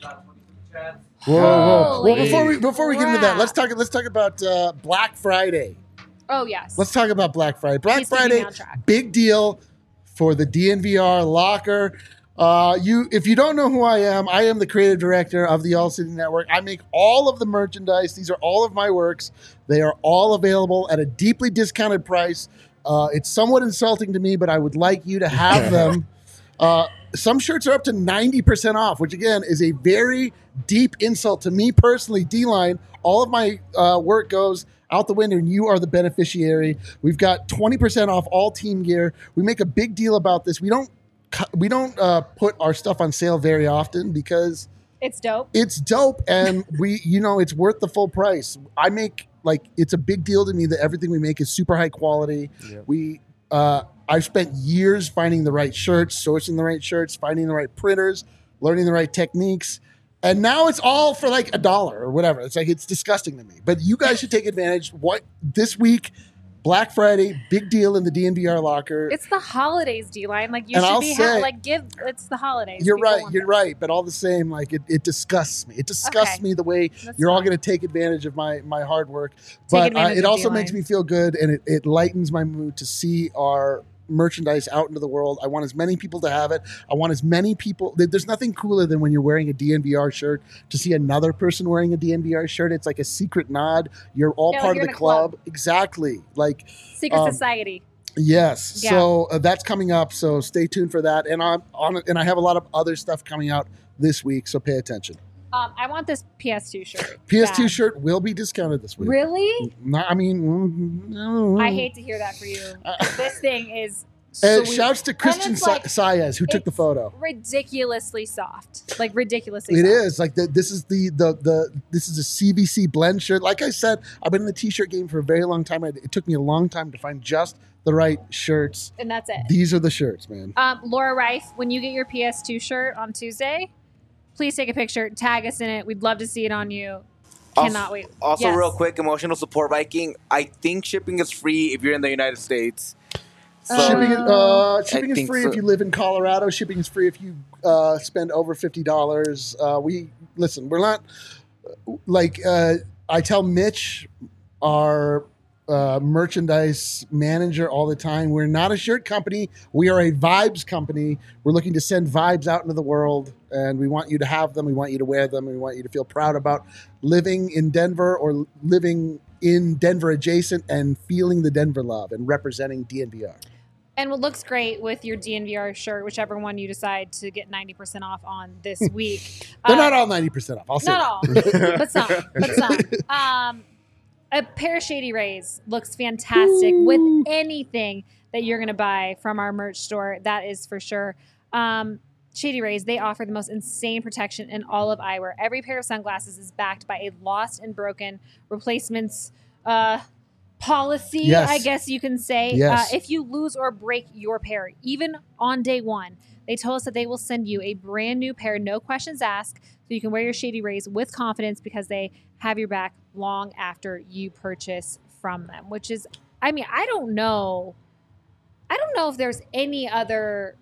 Whoa, whoa. Well, Holy before we before we get into that, crap. let's talk let's talk about uh, Black Friday. Oh, yes. Let's talk about Black Friday. Black He's keeping me Friday, on track. big deal for the D N V R locker. Uh, you, if you don't know who I am, I am the creative director of the All City Network. I make all of the merchandise. These are all of my works. They are all available at a deeply discounted price. Uh, it's somewhat insulting to me, but I would like you to have them. Uh, some shirts are up to ninety percent off, which again is a very deep insult to me personally. D-Line, all of my uh, work goes out the window and you are the beneficiary. We've got twenty percent off all team gear. We make a big deal about this. We don't cu- we don't uh, put our stuff on sale very often because It's dope. it's dope and we, you know, it's worth the full price. I make like, it's a big deal to me that everything we make is super high quality. Yep. We, uh, I've spent years finding the right shirts, sourcing the right shirts, finding the right printers, learning the right techniques. And now it's all for like a dollar or whatever. It's like, it's disgusting to me, but you guys should take advantage. What this week, Black Friday, big deal in the D N V R locker. It's the holidays, D-Line. Like, you And should I'll be, say- ha- like, give, it's the holidays. You're People right. want You're this. right. But all the same, like it, it disgusts me. It disgusts Okay. me the way That's you're all fine. going to take advantage of my my hard work. But uh, advantage it of also D-Line. makes me feel good, and it, it lightens my mood to see our merchandise out into the world. I want as many people to have it. I want as many people. there- There's nothing cooler than when you're wearing a D N V R shirt to see another person wearing a D N V R shirt. It's like a secret nod. You're all Yeah, like part you're of the in a club. club. Exactly. Like Secret Um, Society. yes. Yeah. So uh, that's coming up. So stay tuned for that. And I'm on it. And I have a lot of other stuff coming out this week. So pay attention. Um, I want this P S two shirt. P S two bad. shirt will be discounted this week. Really? No, I mean, mm, no. I hate to hear that for you. this thing is And sweet. shouts to Christian it's like- Sa- Saez who took the it's photo. ridiculously soft. Like, ridiculously It soft. is like the, this is the, the the this is a C V C blend shirt. Like I said, I've been in the t-shirt game for a very long time. It it took me a long time to find just the right shirts. And that's it. These are the shirts, man. Um, Laura Reif, when you get your P S two shirt on Tuesday, please take a picture, tag us in it. We'd love to see it on you. Cannot Also, wait. also Yes. real quick, emotional support Viking. I think shipping is free if you're in the United States. So, shipping uh, shipping is think free so. if you live in Colorado. Shipping is free if you uh, spend over fifty dollars. Uh, we listen. We're not like uh, I tell Mitch, our uh, merchandise manager, all the time. We're not a shirt company. We are a vibes company. We're looking to send vibes out into the world, and we want you to have them. We want you to wear them. We want you to feel proud about living in Denver or living in Denver adjacent and feeling the Denver love and representing D N V R. And what looks great with your D N V R shirt, whichever one you decide to get ninety percent off on this week. They're uh, not all ninety percent off. I'll say Not that. all, but some, but some. Um, a pair of Shady Rays looks fantastic Ooh. with anything that you're going to buy from our merch store. That is for sure. Um, Shady Rays, they offer the most insane protection in all of eyewear. Every pair of sunglasses is backed by a lost and broken replacements uh, policy, Yes. I guess you can say. Yes. Uh, if you lose or break your pair, even on day one, they told us that they will send you a brand new pair, no questions asked, so you can wear your Shady Rays with confidence because they have your back long after you purchase from them, which is, I mean, I don't know. I don't know if there's any other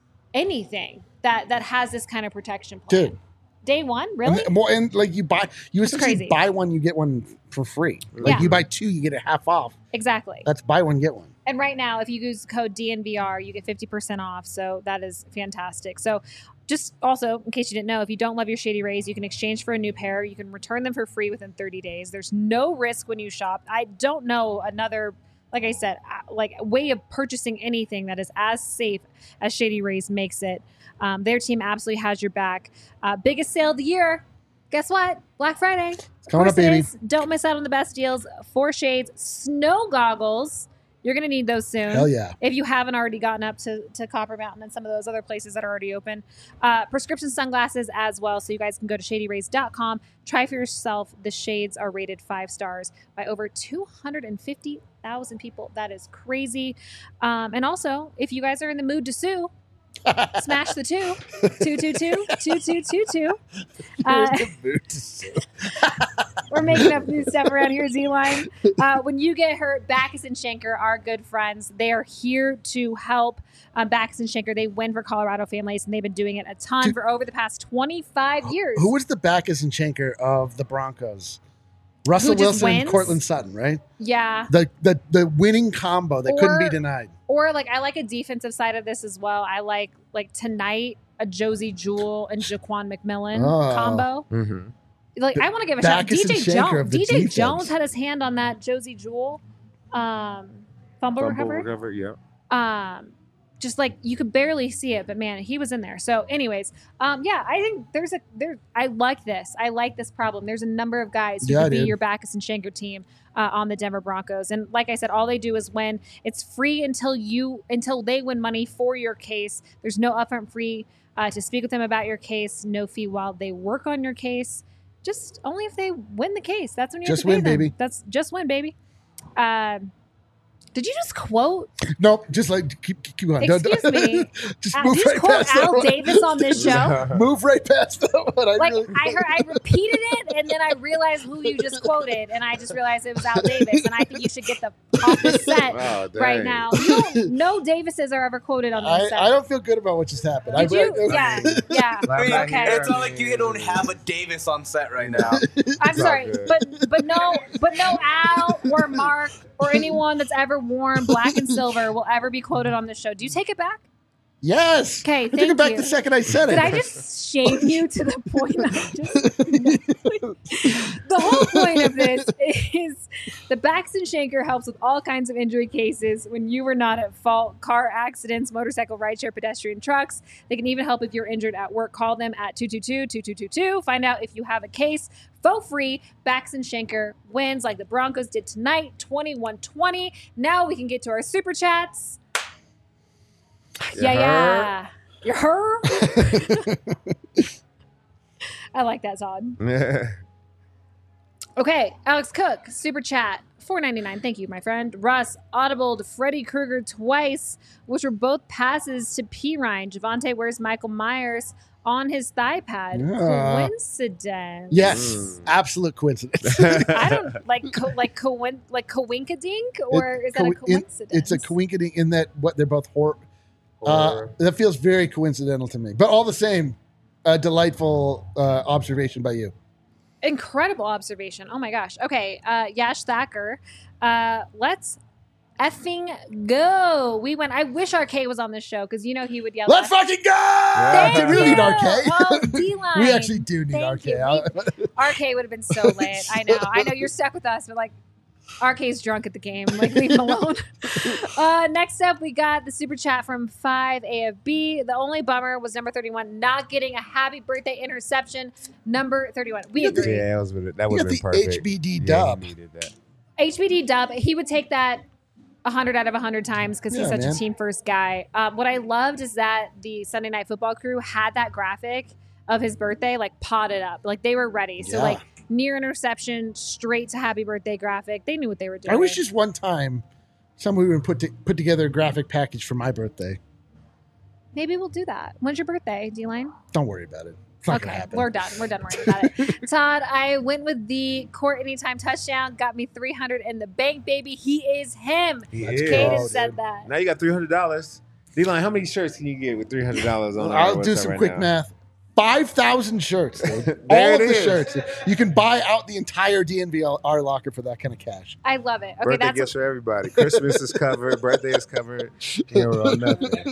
anything that that has this kind of protection plan. Dude. Day one, really? And, well, and like you buy, you It's essentially crazy. buy one, you get one for free. Like Yeah. you buy two, you get it half off. Exactly. That's buy one, get one. And right now, if you use code D N V R, you get fifty percent off. So that is fantastic. So just also, in case you didn't know, if you don't love your Shady Rays, you can exchange for a new pair. You can return them for free within thirty days. There's no risk when you shop. I don't know another, like I said, uh, like way of purchasing anything that is as safe as Shady Rays makes it. Um, their team absolutely has your back. Uh, biggest sale of the year. Guess what? Black Friday. It's coming up, baby. Don't miss out on the best deals. Four Shades snow goggles. You're going to need those soon. Hell yeah. If you haven't already gotten up to, to Copper Mountain and some of those other places that are already open. Uh, prescription sunglasses as well. So you guys can go to shady rays dot com. Try for yourself. The shades are rated five stars by over two hundred fifty thousand people. That is crazy. Um, and also, if you guys are in the mood to sue, smash the two. Two, two, two, two, two, two, two. Uh, we're making up new stuff around here, Z-Line. Uh, when you get hurt, Backus and Schenker are good friends. They are here to help. Um, Backus and Schenker, they win for Colorado families, and they've been doing it a ton Dude, for over the past twenty-five years. Who was the Backus and Schenker of the Broncos? Russell Who just Wilson and wins? Cortland Sutton, right? Yeah. The the the winning combo that couldn't be Or- denied. Or like I like a defensive side of this as well. I like like tonight a Josie Jewell and Jaquan McMillan Oh. combo. Mm-hmm. Like I want to give a shout. Backus D J and Schenker Jones. of the D J defense. Jones had his hand on that Josie Jewell um, fumble, Fumble recovery. recovery, yeah. Um, just like you could barely see it, but man, he was in there. So, anyways, um, yeah, I think there's a there. I like this. I like this problem. There's a number of guys who Yeah, could be dude. your Backus and Schenker team uh, on the Denver Broncos. And like I said, all they do is win. It's free until you until they win money for your case. There's no upfront fee uh, to speak with them about your case. No fee while they work on your case. Just only if they win the case. That's when you Just have to pay win, them. baby. That's just win, baby. Um, did you just quote? Nope, just like keep keep going. Don't- Excuse me. just Uh, move did you right quote past that Al one. Davis on this show? Move right past that one. I Like really, I heard, I repeated it, and then I realized who you just quoted, and I just realized it was Al Davis, and I think you should get the off the set Wow, dang. right now. You don't, no Davises are ever quoted on I, this set. I don't feel good about what just happened. Did I, you? Yeah, yeah. I mean, Okay. It's not like you don't have a Davis on set right now. I'm sorry, good. but but no, but no Al or Mark or anyone that's ever worn black and silver will ever be quoted on this show. Do you take it back? Yes. Okay, I took thank it back you. the second I said it. Did I just shame you to the point that I just... The whole point of this is the Backus and Schenker helps with all kinds of injury cases when you were not at fault. Car accidents, motorcycle, rideshare, pedestrian, trucks. They can even help if you're injured at work. Call them at two two two, two two two two. Find out if you have a case. For free, Backus and Schenker wins like the Broncos did tonight, twenty-one twenty. Now we can get to our super chats. Yeah, yeah. You her? I like that, Todd. Okay, Alex Cook, super chat, four ninety-nine. Thank you, my friend. Russ, audible to Freddy Krueger twice, which were both passes to P. Ryan. Javonte, where's Michael Myers? on his thigh pad. Yeah. Coincidence? Yes, Mm. absolute coincidence. I don't like co- like coin like coinkadink or It- is that a co- in- coincidence? It's a coincidence in that what they're both hor- uh, Or- that feels very coincidental to me. But all the same, a delightful uh, observation by you. Incredible observation. Oh my gosh. Okay, uh, Yash Thacker. Uh, let's effing go. We went. I wish R K was on this show because you know he would yell. Let's at us. fucking go! Thank Dude, we don't you. need R K. Oh, D-line. We actually do need Thank R K. you. We- R K would have been so lit. I know. I know you're stuck with us, but like R K's drunk at the game. Like leave him alone. uh, next up, we got the super chat from five A F B. The only bummer was number thirty-one not getting a happy birthday interception. Number thirty-one. We You got the- agree. Yeah, that was that You would got have been the perfect. H B D Yeah, he dub. needed that. H B D dub, he would take that one hundred out of one hundred times because he's Yeah, such man. a team first guy. Um, what I loved is that the Sunday Night Football crew had that graphic of his birthday like potted up. Like they were ready. So Yeah. like near interception, straight to happy birthday graphic. They knew what they were doing. I wish just one time someone would put to, put together a graphic package for my birthday. Maybe we'll do that. When's your birthday, D-Line? Don't worry about it. It's not gonna Okay, happen. we're done. We're done worrying about it. Todd, I went with the court anytime touchdown. Got me three hundred in the bank, baby. He is him. He That's is. Caden Oh, said dude. that. Now you got three hundred dollars. D-Line, how many shirts can you get with three hundred dollars on? I'll our do website some right quick now? math. Five thousand shirts, dude. There All it of the is. shirts. You can buy out the entire D N V R locker for that kind of cash. I love it. Okay, Birthday that's gifts for everybody. Christmas is covered. Birthday is covered. Hero or nothing.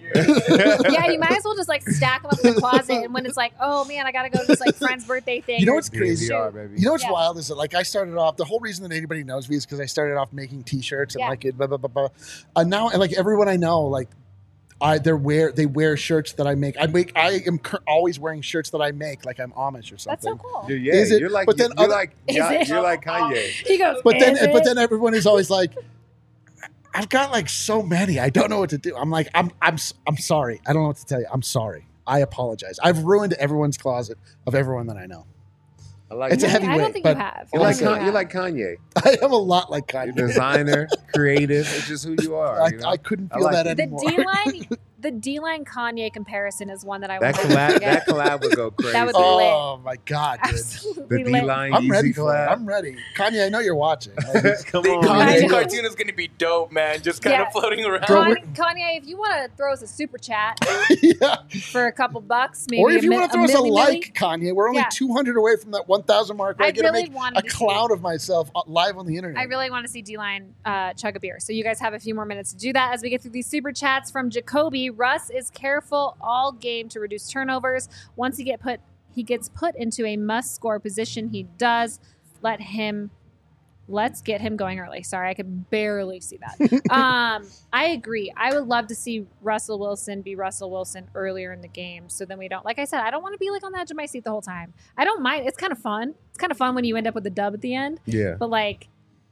yeah, you might as well just like stack them up in the closet. And when it's like, oh man, I gotta go to this like friend's birthday thing. You know or- what's crazy? D N V R, baby. You know what's Yeah. wild is that like I started off. The whole reason that anybody knows me is because I started off making T-shirts and Yeah. like it, blah blah blah blah. And now, and like everyone I know, like I they wear they wear shirts that I make. I make. I am cur- always wearing shirts that I make, like I'm Amish or something. That's so cool. Dude, yeah, Is it- you're like, but then you're other- like, Is yeah, it? you're like Kanye. He goes, But then, "Is but it?" then everyone is always like, I've got like so many. I don't know what to do. I'm like, I'm, I'm, I'm sorry. I don't know what to tell you. I'm sorry. I apologize. I've ruined everyone's closet of everyone that I know. I like It's a you. heavy I don't weight, think but you have. You're I like, don't think Con- you you're have. like Kanye. I am a lot like You're Kanye. designer, creative. It's just who you are. I, you know? I couldn't I feel like that it. The anymore. D line, the D line Kanye comparison is one that I that want to collab, get. that collab would go crazy. That would be oh my god, dude! Absolutely the lit. D line I'm ready Yeezy for it. collab. I'm ready. Kanye, I know you're watching. Like, Come The on, Kanye know. cartoon is gonna be dope, man. Just kind Yeah. of floating around. Bro, Kanye, Kanye, if you want to throw us a super chat yeah. for a couple bucks, maybe Or if a you mi- want to throw us a milli milli. like, Kanye, we're only Yeah. two hundred away from that one thousand mark. Where I, I get to really make wanted a to see- clown of myself uh, live on the internet. I really want to see D-Line uh, chug a beer. So you guys have a few more minutes to do that as we get through these super chats from Jacoby. Russ is careful all game to reduce turnovers. Once he get put, he gets put into a must-score position. He does. Let him. Let's get him going early. Sorry, I could barely see that. um, I agree. I would love to see Russell Wilson be Russell Wilson earlier in the game, so then we don't. Like I said, I don't want to be like on the edge of my seat the whole time. I don't mind. It's kind of fun. It's kind of fun when you end up with a dub at the end. Yeah, But like,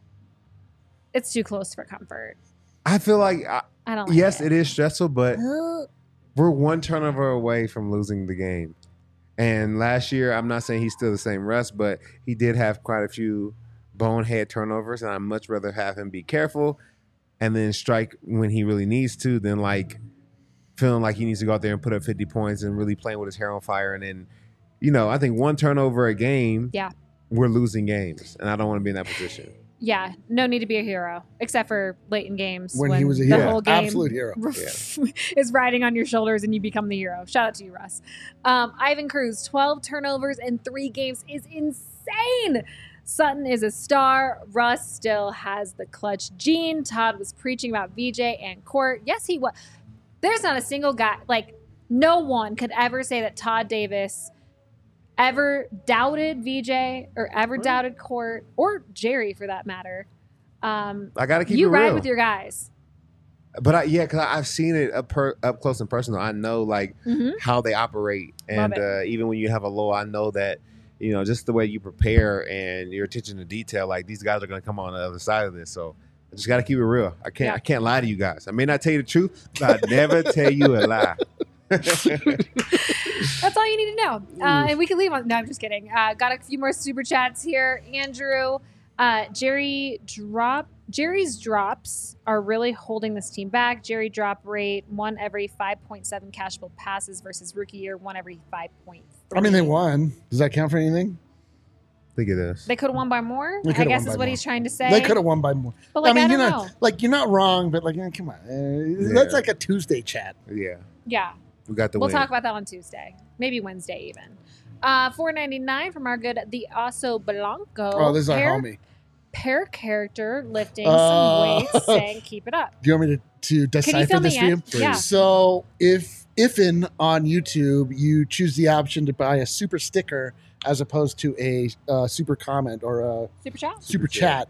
it's too close for comfort. I feel like I, I don't like yes, it. it is stressful, but we're one turnover away from losing the game. And last year, I'm not saying he's still the same Russ, but he did have quite a few bonehead turnovers, and I'd much rather have him be careful and then strike when he really needs to than like feeling like he needs to go out there and put up fifty points and really playing with his hair on fire. And then, you know, I think one turnover a game, Yeah. we're losing games, and I don't want to be in that position. Yeah, no need to be a hero, except for late in games when, he was a the hero, whole game absolute hero. is riding on your shoulders and you become the hero. Shout out to you, Russ. Um, Ivan Cruz, twelve turnovers in three games is insane. Sutton is a star. Russ still has the clutch gene. Todd was preaching about V J and Court. Yes, he was. There's not a single guy, like no one could ever say that Todd Davis ever doubted V J or ever doubted Court or Jerry for that matter. Um, I got to keep you it ride real. with your guys. But I, yeah, because I've seen it up per, up close and personal. I know like Mhm. how they operate, and Love it. uh, even when you have a low, I know that you know just the way you prepare and your attention to detail. Like these guys are going to come on the other side of this, so I just got to keep it real. I can't Yeah. I can't lie to you guys. I may not tell you the truth, but I never tell you a lie. That's all you need to know. Uh, and we can leave on. No, I'm just kidding. Uh, got a few more super chats here. Andrew, uh, Jerry drop Jerry's drops are really holding this team back. Jerry drop rate, one every five point seven cashable passes versus rookie year, one every five point three. I mean, they won. Does that count for anything? I think it is. They could have won by more, They I coulda guess won is by what more. he's trying to say. They could have won by more. But, like, I mean, I you're don't not know. like you're not wrong, but like, eh, come on, uh, that's Yeah. like a Tuesday chat. Yeah. Yeah. We got the We'll win. talk about that on Tuesday. Maybe Wednesday even. Uh, four ninety-nine from our good The Oso Blanco. Oh, this is our Pair- homie. Pair character lifting Uh, some weights, saying keep it up. Do you want me to, to Can you decipher fill this me for you? in? Yeah. So if if in on YouTube you choose the option to buy a super sticker as opposed to a uh, super comment or a Super chat? super chat,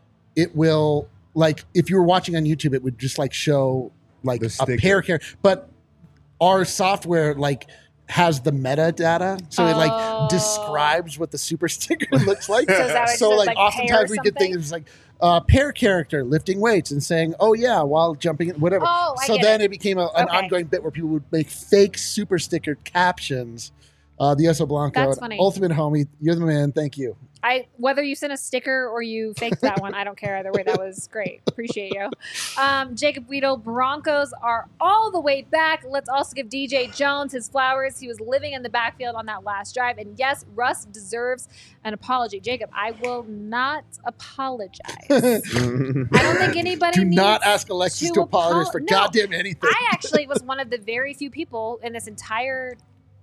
it will like if you were watching on YouTube, it would just like show like The a sticker. pair character, but our software like has the metadata, so it Oh. like describes what the super sticker looks like. So is that what it So says, like, like, pair oftentimes we get something? things like uh, pair character lifting weights and saying, "Oh yeah," while jumping, whatever. Oh, I so get then it. it, became a, an Okay. ongoing bit where people would make fake super sticker captions. Uh, the Oso Blanco, That's an funny. ultimate homie. You're the man. Thank you. I whether you sent a sticker or you faked that one, I don't care either way. That was great. Appreciate you. Um, Jacob Weedle, Broncos are all the way back. Let's also give D J Jones his flowers. He was living in the backfield on that last drive. And yes, Russ deserves an apology. Jacob, I will not apologize. I don't think anybody Do needs not ask Alexis to to apologize apo- for No. goddamn anything. I actually was one of the very few people in this entire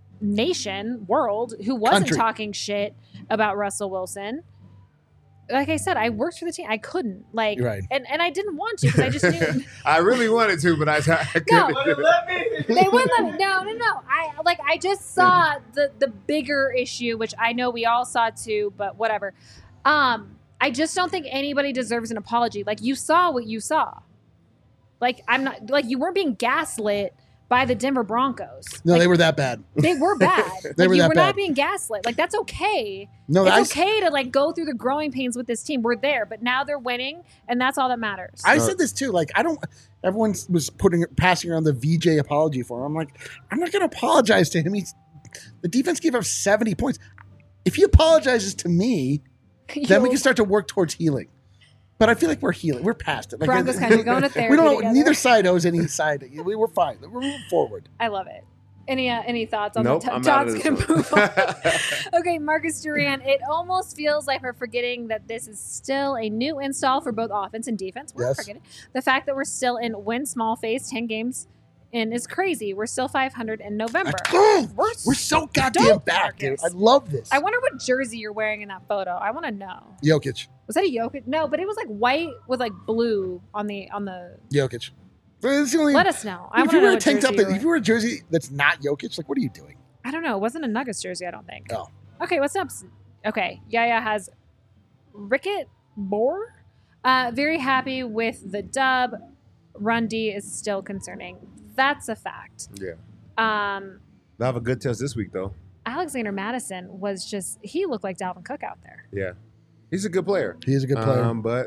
nation, world, who wasn't Country. talking shit about Russell Wilson. Like I said, I worked for the team. I couldn't like, You're right. and, and I didn't want to because I just knew I really wanted to, but I, I couldn't. No. do it. they wouldn't let me. No, no, no. I like I just saw the the bigger issue, which I know we all saw too, but whatever. Um, I just don't think anybody deserves an apology. Like you saw what you saw. Like I'm not like you weren't being gaslit by the Denver Broncos. No, Like, they were that bad. They were bad. They like, were you that were bad. not being gaslit. Like that's okay. No, it's I, okay to like go through the growing pains with this team. We're there, but now they're winning, and that's all that matters. I said this too. Like, I don't. Everyone was putting passing around the V J apology for him. I'm like, I'm not going to apologize to him. He's the defense gave up seventy points. If he apologizes to me, then we can start to work towards healing. But I feel like we're healing. We're past it. Like, Broncos country, going to We therapy don't know. together. Neither side owes any side. We were fine. We're moving forward. I love it. Any uh, any thoughts on Nope, the I'm t- out Todd's of gonna this move one. on. Okay, Marcus Duran. It almost feels like we're forgetting that this is still a new install for both offense and defense. We're Yes. forgetting the fact that we're still in win small phase, ten games in is crazy. We're still five hundred in November. Oh, We're we're so goddamn stoked, back, dude. Marcus. I love this. I wonder what jersey you're wearing in that photo. I want to know. Jokic. Was that a Jokic? No, but it was like white with like blue on the on the. Jokic. It's the only, Let us know. I if want you to know wear a what tank jersey top, you're that, if wearing. you wear a jersey that's not Jokic, like, what are you doing? I don't know. It wasn't a Nuggets jersey, I don't think. Oh. Okay, what's up? Okay, Yaya has Rickett Bohr. Uh, very happy with the dub. Run D is still concerning. That's a fact. Yeah. Um, They'll have a good test this week, though. Alexander Madison was just, he looked like Dalvin Cook out there. Yeah. He's a good player. He is a good player. Um, but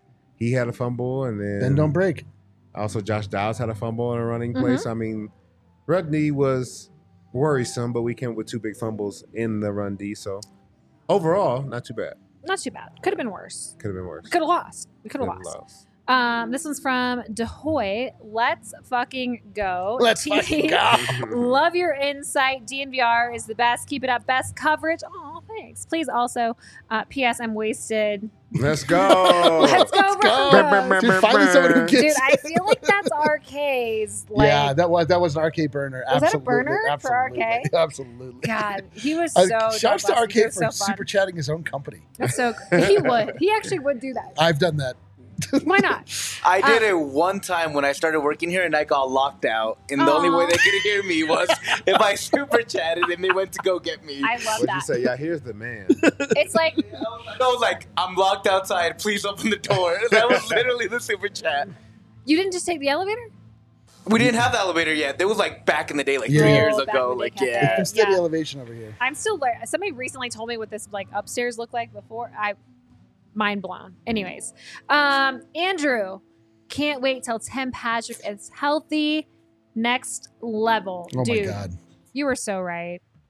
he had a fumble, and then and don't break. also Josh Dowds had a fumble in a running Mhm. place. I mean, run D was worrisome, but we came with two big fumbles in the run D. So overall, not too bad. Not too bad. Could have been worse. Could have been worse. Could have lost. We could have Could've lost. lost. Um, this one's from DeHoy. Let's fucking go. Let's T D. fucking go. Love your insight. D N V R is the best. Keep it up. Best coverage. Oh, thanks. Please also, uh, P S. I'm wasted. Let's go. Let's go, Broncos. Dude, finally someone who Dude, gets I feel like that's R K's. Like, yeah, that was that was an R K burner. Was that a Absolutely. burner for Absolutely. R K? Absolutely. God, he was Uh, so. shouts to dope R last week. It K was for so fun. super chatting his own company. That's so. He would. He actually would do that. I've done that. Why not? I did Uh, it one time when I started working here and I got locked out. And the only way Aw. they could hear me was if I super chatted and they went to go get me. I love What'd you that. say? Yeah, here's the man. It's like I was like, I'm locked outside. Please open the door. That was literally the super chat. you didn't just take the elevator. We didn't have the elevator yet. It was like back in the day, like Yeah. three Oh, years back ago. when they Like, kept it. yeah. Steady Yeah. elevation over here. I'm still there. Somebody recently told me what this like upstairs looked like before. I mind blown. Anyways, um, Andrew, can't wait till Tim Patrick is healthy. Next level, Oh dude. my god. You were so right.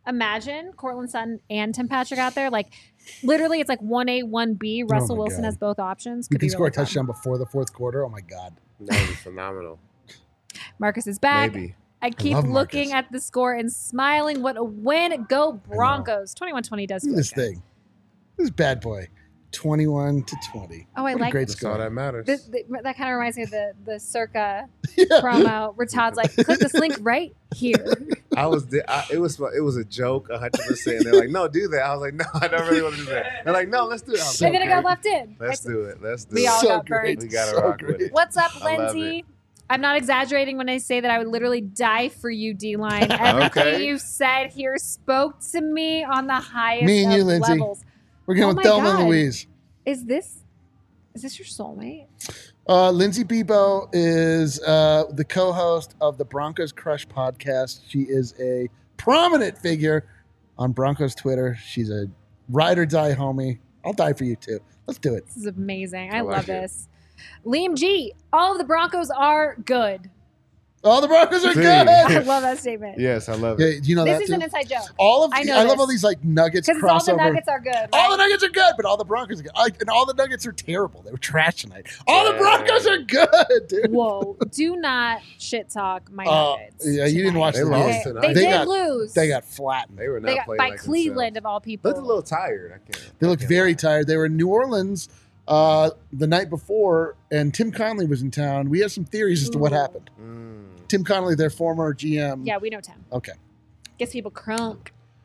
Imagine Cortland Sutton and Tim Patrick out there. Like, literally, it's like one A, one B. Russell Oh my Wilson God. has both options. We Could can be score really a touchdown fun. before the fourth quarter. Oh my God. That would be phenomenal. Marcus is back. Maybe. I keep love looking Marcus. at the score and smiling. What a win. Go Broncos. twenty-one twenty does Look feel at this good. thing. This bad boy. twenty-one to twenty. Oh, I What a like great That's all score. that matters. Th- th- that kind of reminds me of the, the Circa Yeah. promo where Todd's like, click this link right here. I was, di- I, it was, it was a joke, a hundred percent. They're like, no, do that. I was like, no, I don't really want to do that. They're like, no, let's do it. I was And like, then it got okay, left in. Let's I- do it. Let's do We it. all So got great. burned. We gotta So rock with great. it. What's up, I love Lindsay? I'm not exaggerating when I say that I would literally die for you, D-Line. Everything Okay. you said here spoke to me on the highest Me and of you, Lindsay. levels. We're going Oh with my Thelma God. and Louise. Is this is this your soulmate? Uh, Lindsay Bebo is uh, the co-host of the Broncos Crush podcast. She is a prominent figure on Broncos Twitter. She's a ride or die homie. I'll die for you too. Let's do it. This is amazing. I, I love like it. this. Liam G, all of the Broncos are good. All the Broncos are See. good. I love that statement. Yes, I love Yeah, it. do you know This that is too? an inside joke. all of I the, know I love this. all these like Nuggets Because all the crossover. Nuggets are good. Right? All the Nuggets are good, but all the Broncos are good. I, and all the Nuggets are terrible. They were trash tonight. All the Yeah. Broncos are good, dude. Whoa, do not shit talk my Uh, Nuggets. yeah, you didn't tonight. watch They the lost game. Okay, tonight. They, They did got- lose. They got flattened. They were not They got playing by like Cleveland themselves. of all people. Looked a little tired. I can't. They I looked can't very lie. tired. They were in New Orleans uh, the night before, and Tim Connolly was in town. We have some theories as to what Ooh. happened. Mm. Tim Connolly, their former G M. Yeah, we know Tim. Okay. Gets people crunk.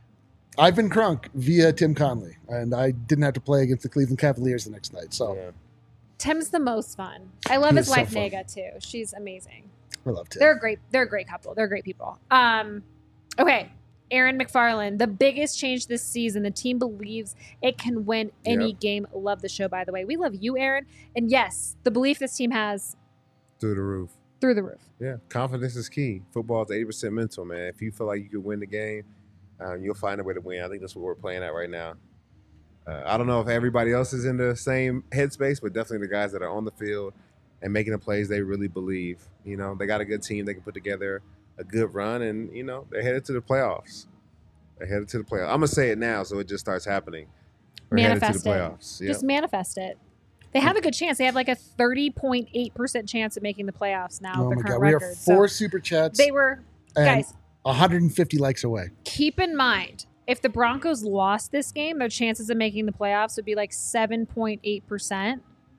I've been crunk via Tim Connolly, and I didn't have to play against the Cleveland Cavaliers the next night. So Yeah. Tim's the most fun. I love He his is so wife fun. Nega too. She's amazing. I love Tim. They're a great. They're a great couple. They're great people. Um, okay, Aaron McFarland. The biggest change this season. The team believes it can win any Yep. game. Love the show, by the way. We love you, Aaron. And yes, the belief this team has Through the roof. through the roof. Yeah, confidence is key. Football is eighty percent mental, man. If you feel like you could win the game, um, you'll find a way to win. I think that's what we're playing at right now. Uh, I don't know if everybody else is in the same headspace, but definitely the guys that are on the field and making the plays they really believe. You know, they got a good team. They can put together a good run, and, you know, they're headed to the playoffs. They're headed to the playoffs. I'm going to say it now so it just starts happening. We're Manifest headed to the it. playoffs. Yep. Just manifest it. They have a good chance. They have like a thirty point eight percent chance of making the playoffs now. oh with my the God. current We are record. four So super chats they were and guys. one hundred fifty likes away. Keep in mind, if the Broncos lost this game, their chances of making the playoffs would be like seven point eight percent.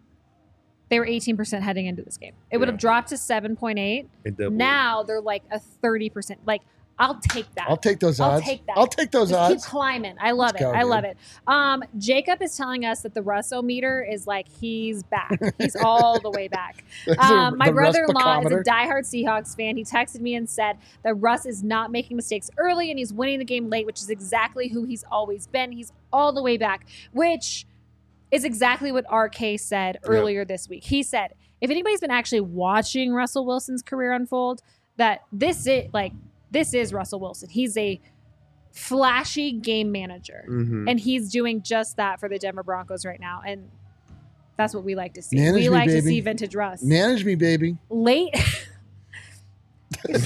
They were eighteen percent heading into this game. It would Yeah. have dropped to seven point eight. It doubled. Now they're like a thirty percent. Like, I'll take that. I'll take those I'll odds. take that. I'll take those Just odds. keep climbing. I love Let's it. go, I dude. love it. Um, Jacob is telling us that the Russo-meter is like he's back. He's all the way back. Those Um, are my the Russ brother-in-law is a Bacometer. diehard Seahawks fan. He texted me and said that Russ is not making mistakes early and he's winning the game late, which is exactly who he's always been. He's all the way back, which is exactly what R K said earlier this week. He said, if anybody's been actually watching Russell Wilson's career unfold, that this is like this is Russell Wilson. He's a flashy game manager. Mhm. And he's doing just that for the Denver Broncos right now. And that's what we like to see. Manage we me, like to baby. see vintage Russ. Manage me, baby. Late. Put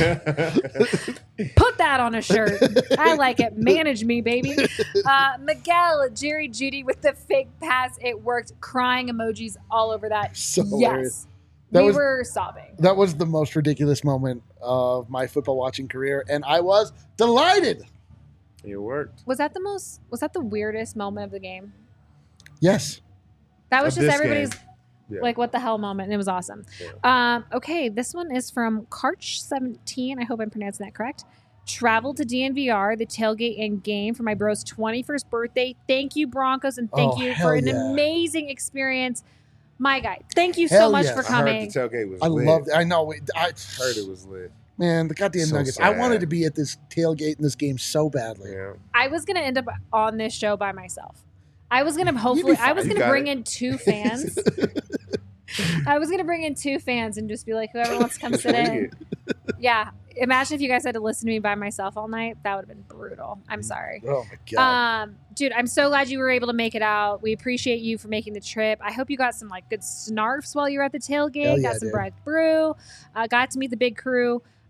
that on a shirt. I like it. Manage me, baby. Uh, Miguel, Jerry Judy with the fake pass. It worked. Crying emojis all over that. So hilarious. Yes. That we was- were sobbing. That was the most ridiculous moment of my football watching career, and I was delighted. It worked. Was that the most, was that the weirdest moment of the game? Yes. That was Of just this everybody's game. Yeah. like, what the hell moment. And it was awesome. Yeah. Um, okay, this one is from Karch seventeen. I hope I'm pronouncing that correct. Traveled to D N V R, the tailgate and game for my bro's twenty-first birthday. Thank you, Broncos, and thank Oh, you hell for an yeah. amazing experience. My guy, thank you so Hell much yes. for I coming. heard the tailgate was I lit. loved it. I know. it- I Heard it was lit. Man, the goddamn So Nuggets. I sad. wanted to be at this tailgate in this game so badly. Yeah. I was gonna end up on this show by myself. I was gonna hopefully. I was You gonna got bring it. in two fans. I was gonna bring in two fans and just be like, whoever wants to come sit Bring in. it. Yeah. Imagine if you guys had to listen to me by myself all night. That would have been brutal. I'm Mm. sorry. Oh my god. Um, dude, I'm so glad you were able to make it out. We appreciate you for making the trip. I hope you got some like good snarfs while you were at the tailgate. Hell yeah, got some dude. Bread Brew. Uh, got to meet the big crew.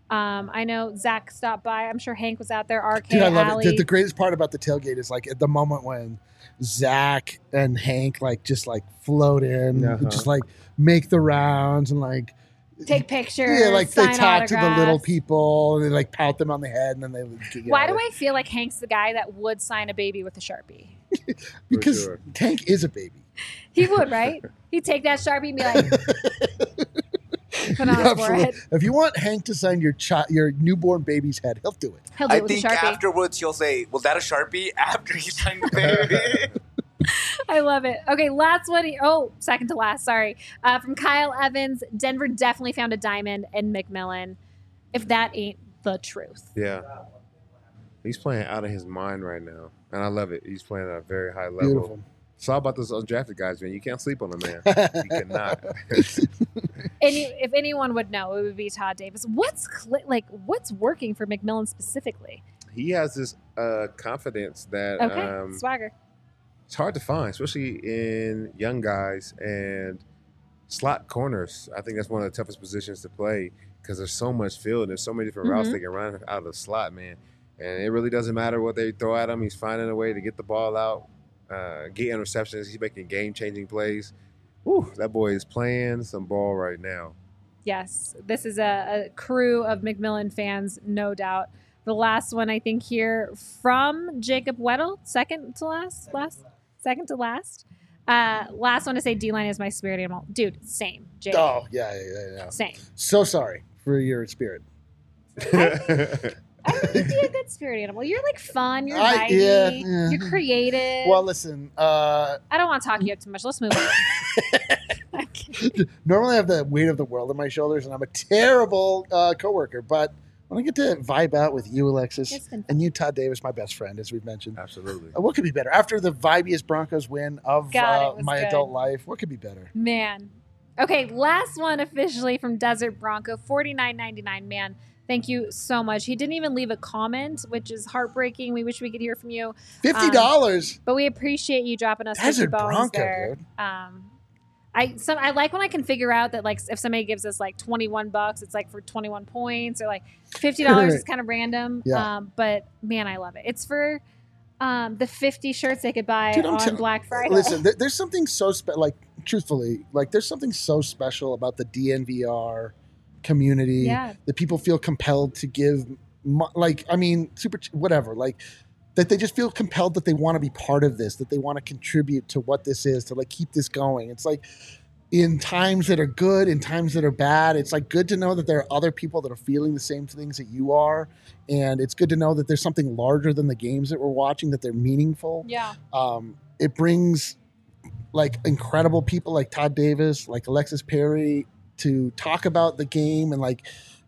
Um, I know Zach stopped by. I'm sure Hank was out there. R K, Dude, I love Alley. it. The, the greatest part about the tailgate is like at the moment when Zach and Hank like just like float in, Uh-huh. just like make the rounds and like Take pictures. yeah, like they sign talk to the little autographs. people and they like pat them on the head and then they get Why out do of I feel like Hank's the guy that would sign a baby with a Sharpie? it. Because sure. Hank is a baby. He would, right? He'd take that Sharpie and be like, put on Yeah, his absolutely. forehead. If you want Hank to sign your chi- your newborn baby's head, he'll do it. He'll do I it with a think Sharpie. afterwards he'll say, "Was that a Sharpie?" After he signed the baby. I love it. Okay, last one. Oh, second to last. Sorry. Uh, from Kyle Evans, Denver definitely found a diamond in McMillan. If that ain't the truth. Yeah. He's playing out of his mind right now. And I love it. He's playing at a very high level. Beautiful. It's all about those undrafted guys, man. You can't sleep on a man. You cannot. Any, if anyone would know, it would be Todd Davis. What's cl- like? What's working for McMillan specifically? He has this uh, confidence that Okay, um, swagger. it's hard to find, especially in young guys and slot corners. I think that's one of the toughest positions to play because there's so much field and there's so many different routes Mhm. they can run out of the slot, man. And it really doesn't matter what they throw at him. He's finding a way to get the ball out, uh, get interceptions. He's making game-changing plays. Whew, that boy is playing some ball right now. Yes, this is a, a crew of McMillan fans, no doubt. The last one, I think, here from Jacob Weddle, second to last, last, second to last. Uh, last one to say D-line is my spirit animal. Dude, same. Jake, Oh yeah, yeah, yeah, yeah. same. So sorry for your spirit. I think you'd be a good spirit animal. You're like fun. You're I- vibey. yeah, yeah. You're creative. Well, listen. Uh, I don't want to talk you up too much. Let's move on. normally I have the weight of the world on my shoulders, and I'm a terrible uh, coworker. But when I get to vibe out with you, Alexis, It's been fun. and you, Todd Davis, my best friend, as we've mentioned, Absolutely. uh, what could be better? After the vibiest Broncos win of God, it uh, was my good. adult life, what could be better? Man. Okay, last one officially from Desert Bronco, forty-nine ninety-nine. Man, thank you so much. He didn't even leave a comment, which is heartbreaking. We wish we could hear from you. Fifty dollars. But we appreciate you dropping us Desert fifty bones Bronco, there. dude. Um, I some I like when I can figure out that like if somebody gives us like twenty-one bucks, it's like for twenty-one points, or like fifty dollars is kind of random. Yeah. Um, but man, I love it. It's for um, the fifty shirts they could buy Dude, I'm on tell- Black Friday. Listen, there, there's something so special. Like, truthfully, like there's something so special about the D N V R community Yeah. that people feel compelled to give. mo- Like, I mean, super, ch- whatever. Like, that they just feel compelled that they want to be part of this, that they want to contribute to what this is, to like keep this going. It's like in times that are good, in times that are bad, it's like good to know that there are other people that are feeling the same things that you are. And it's good to know that there's something larger than the games that we're watching, that they're meaningful. yeah. Um, it brings like incredible people like Todd Davis, like Alexis Perry to talk about the game and like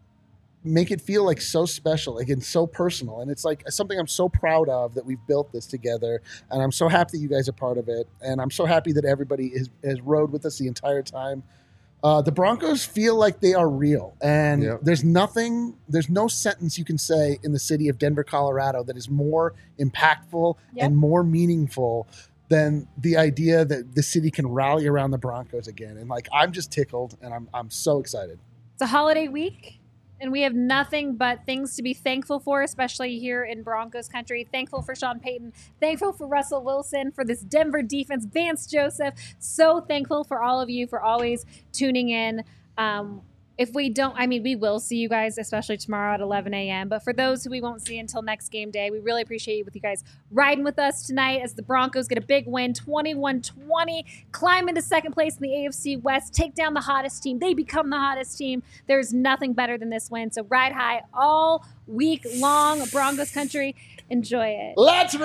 make it feel like so special, like and so personal. And it's like something I'm so proud of that we've built this together. And I'm so happy that you guys are part of it. And I'm so happy that everybody is, has rode with us the entire time. Uh, the Broncos feel like they are real. And Yep. there's nothing, there's no sentence you can say in the city of Denver, Colorado that is more impactful Yep. and more meaningful than the idea that the city can rally around the Broncos again. And like, I'm just tickled and I'm, I'm so excited. It's a holiday week, and we have nothing but things to be thankful for, especially here in Broncos country. Thankful for Sean Payton. Thankful for Russell Wilson, for this Denver defense, Vance Joseph. So thankful for all of you for always tuning in. Um, if we don't, I mean, we will see you guys, especially tomorrow at eleven a.m. But for those who we won't see until next game day, we really appreciate you with you guys riding with us tonight as the Broncos get a big win, twenty-one twenty, climb into second place in the A F C West, take down the hottest team. They become the hottest team. There's nothing better than this win. So ride high all week long, Broncos country. Enjoy it. Let's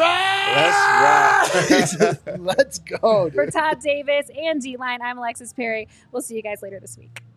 ride! Let's ride! Let's go, dude. For Todd Davis and D-Line, I'm Alexis Perry. We'll see you guys later this week.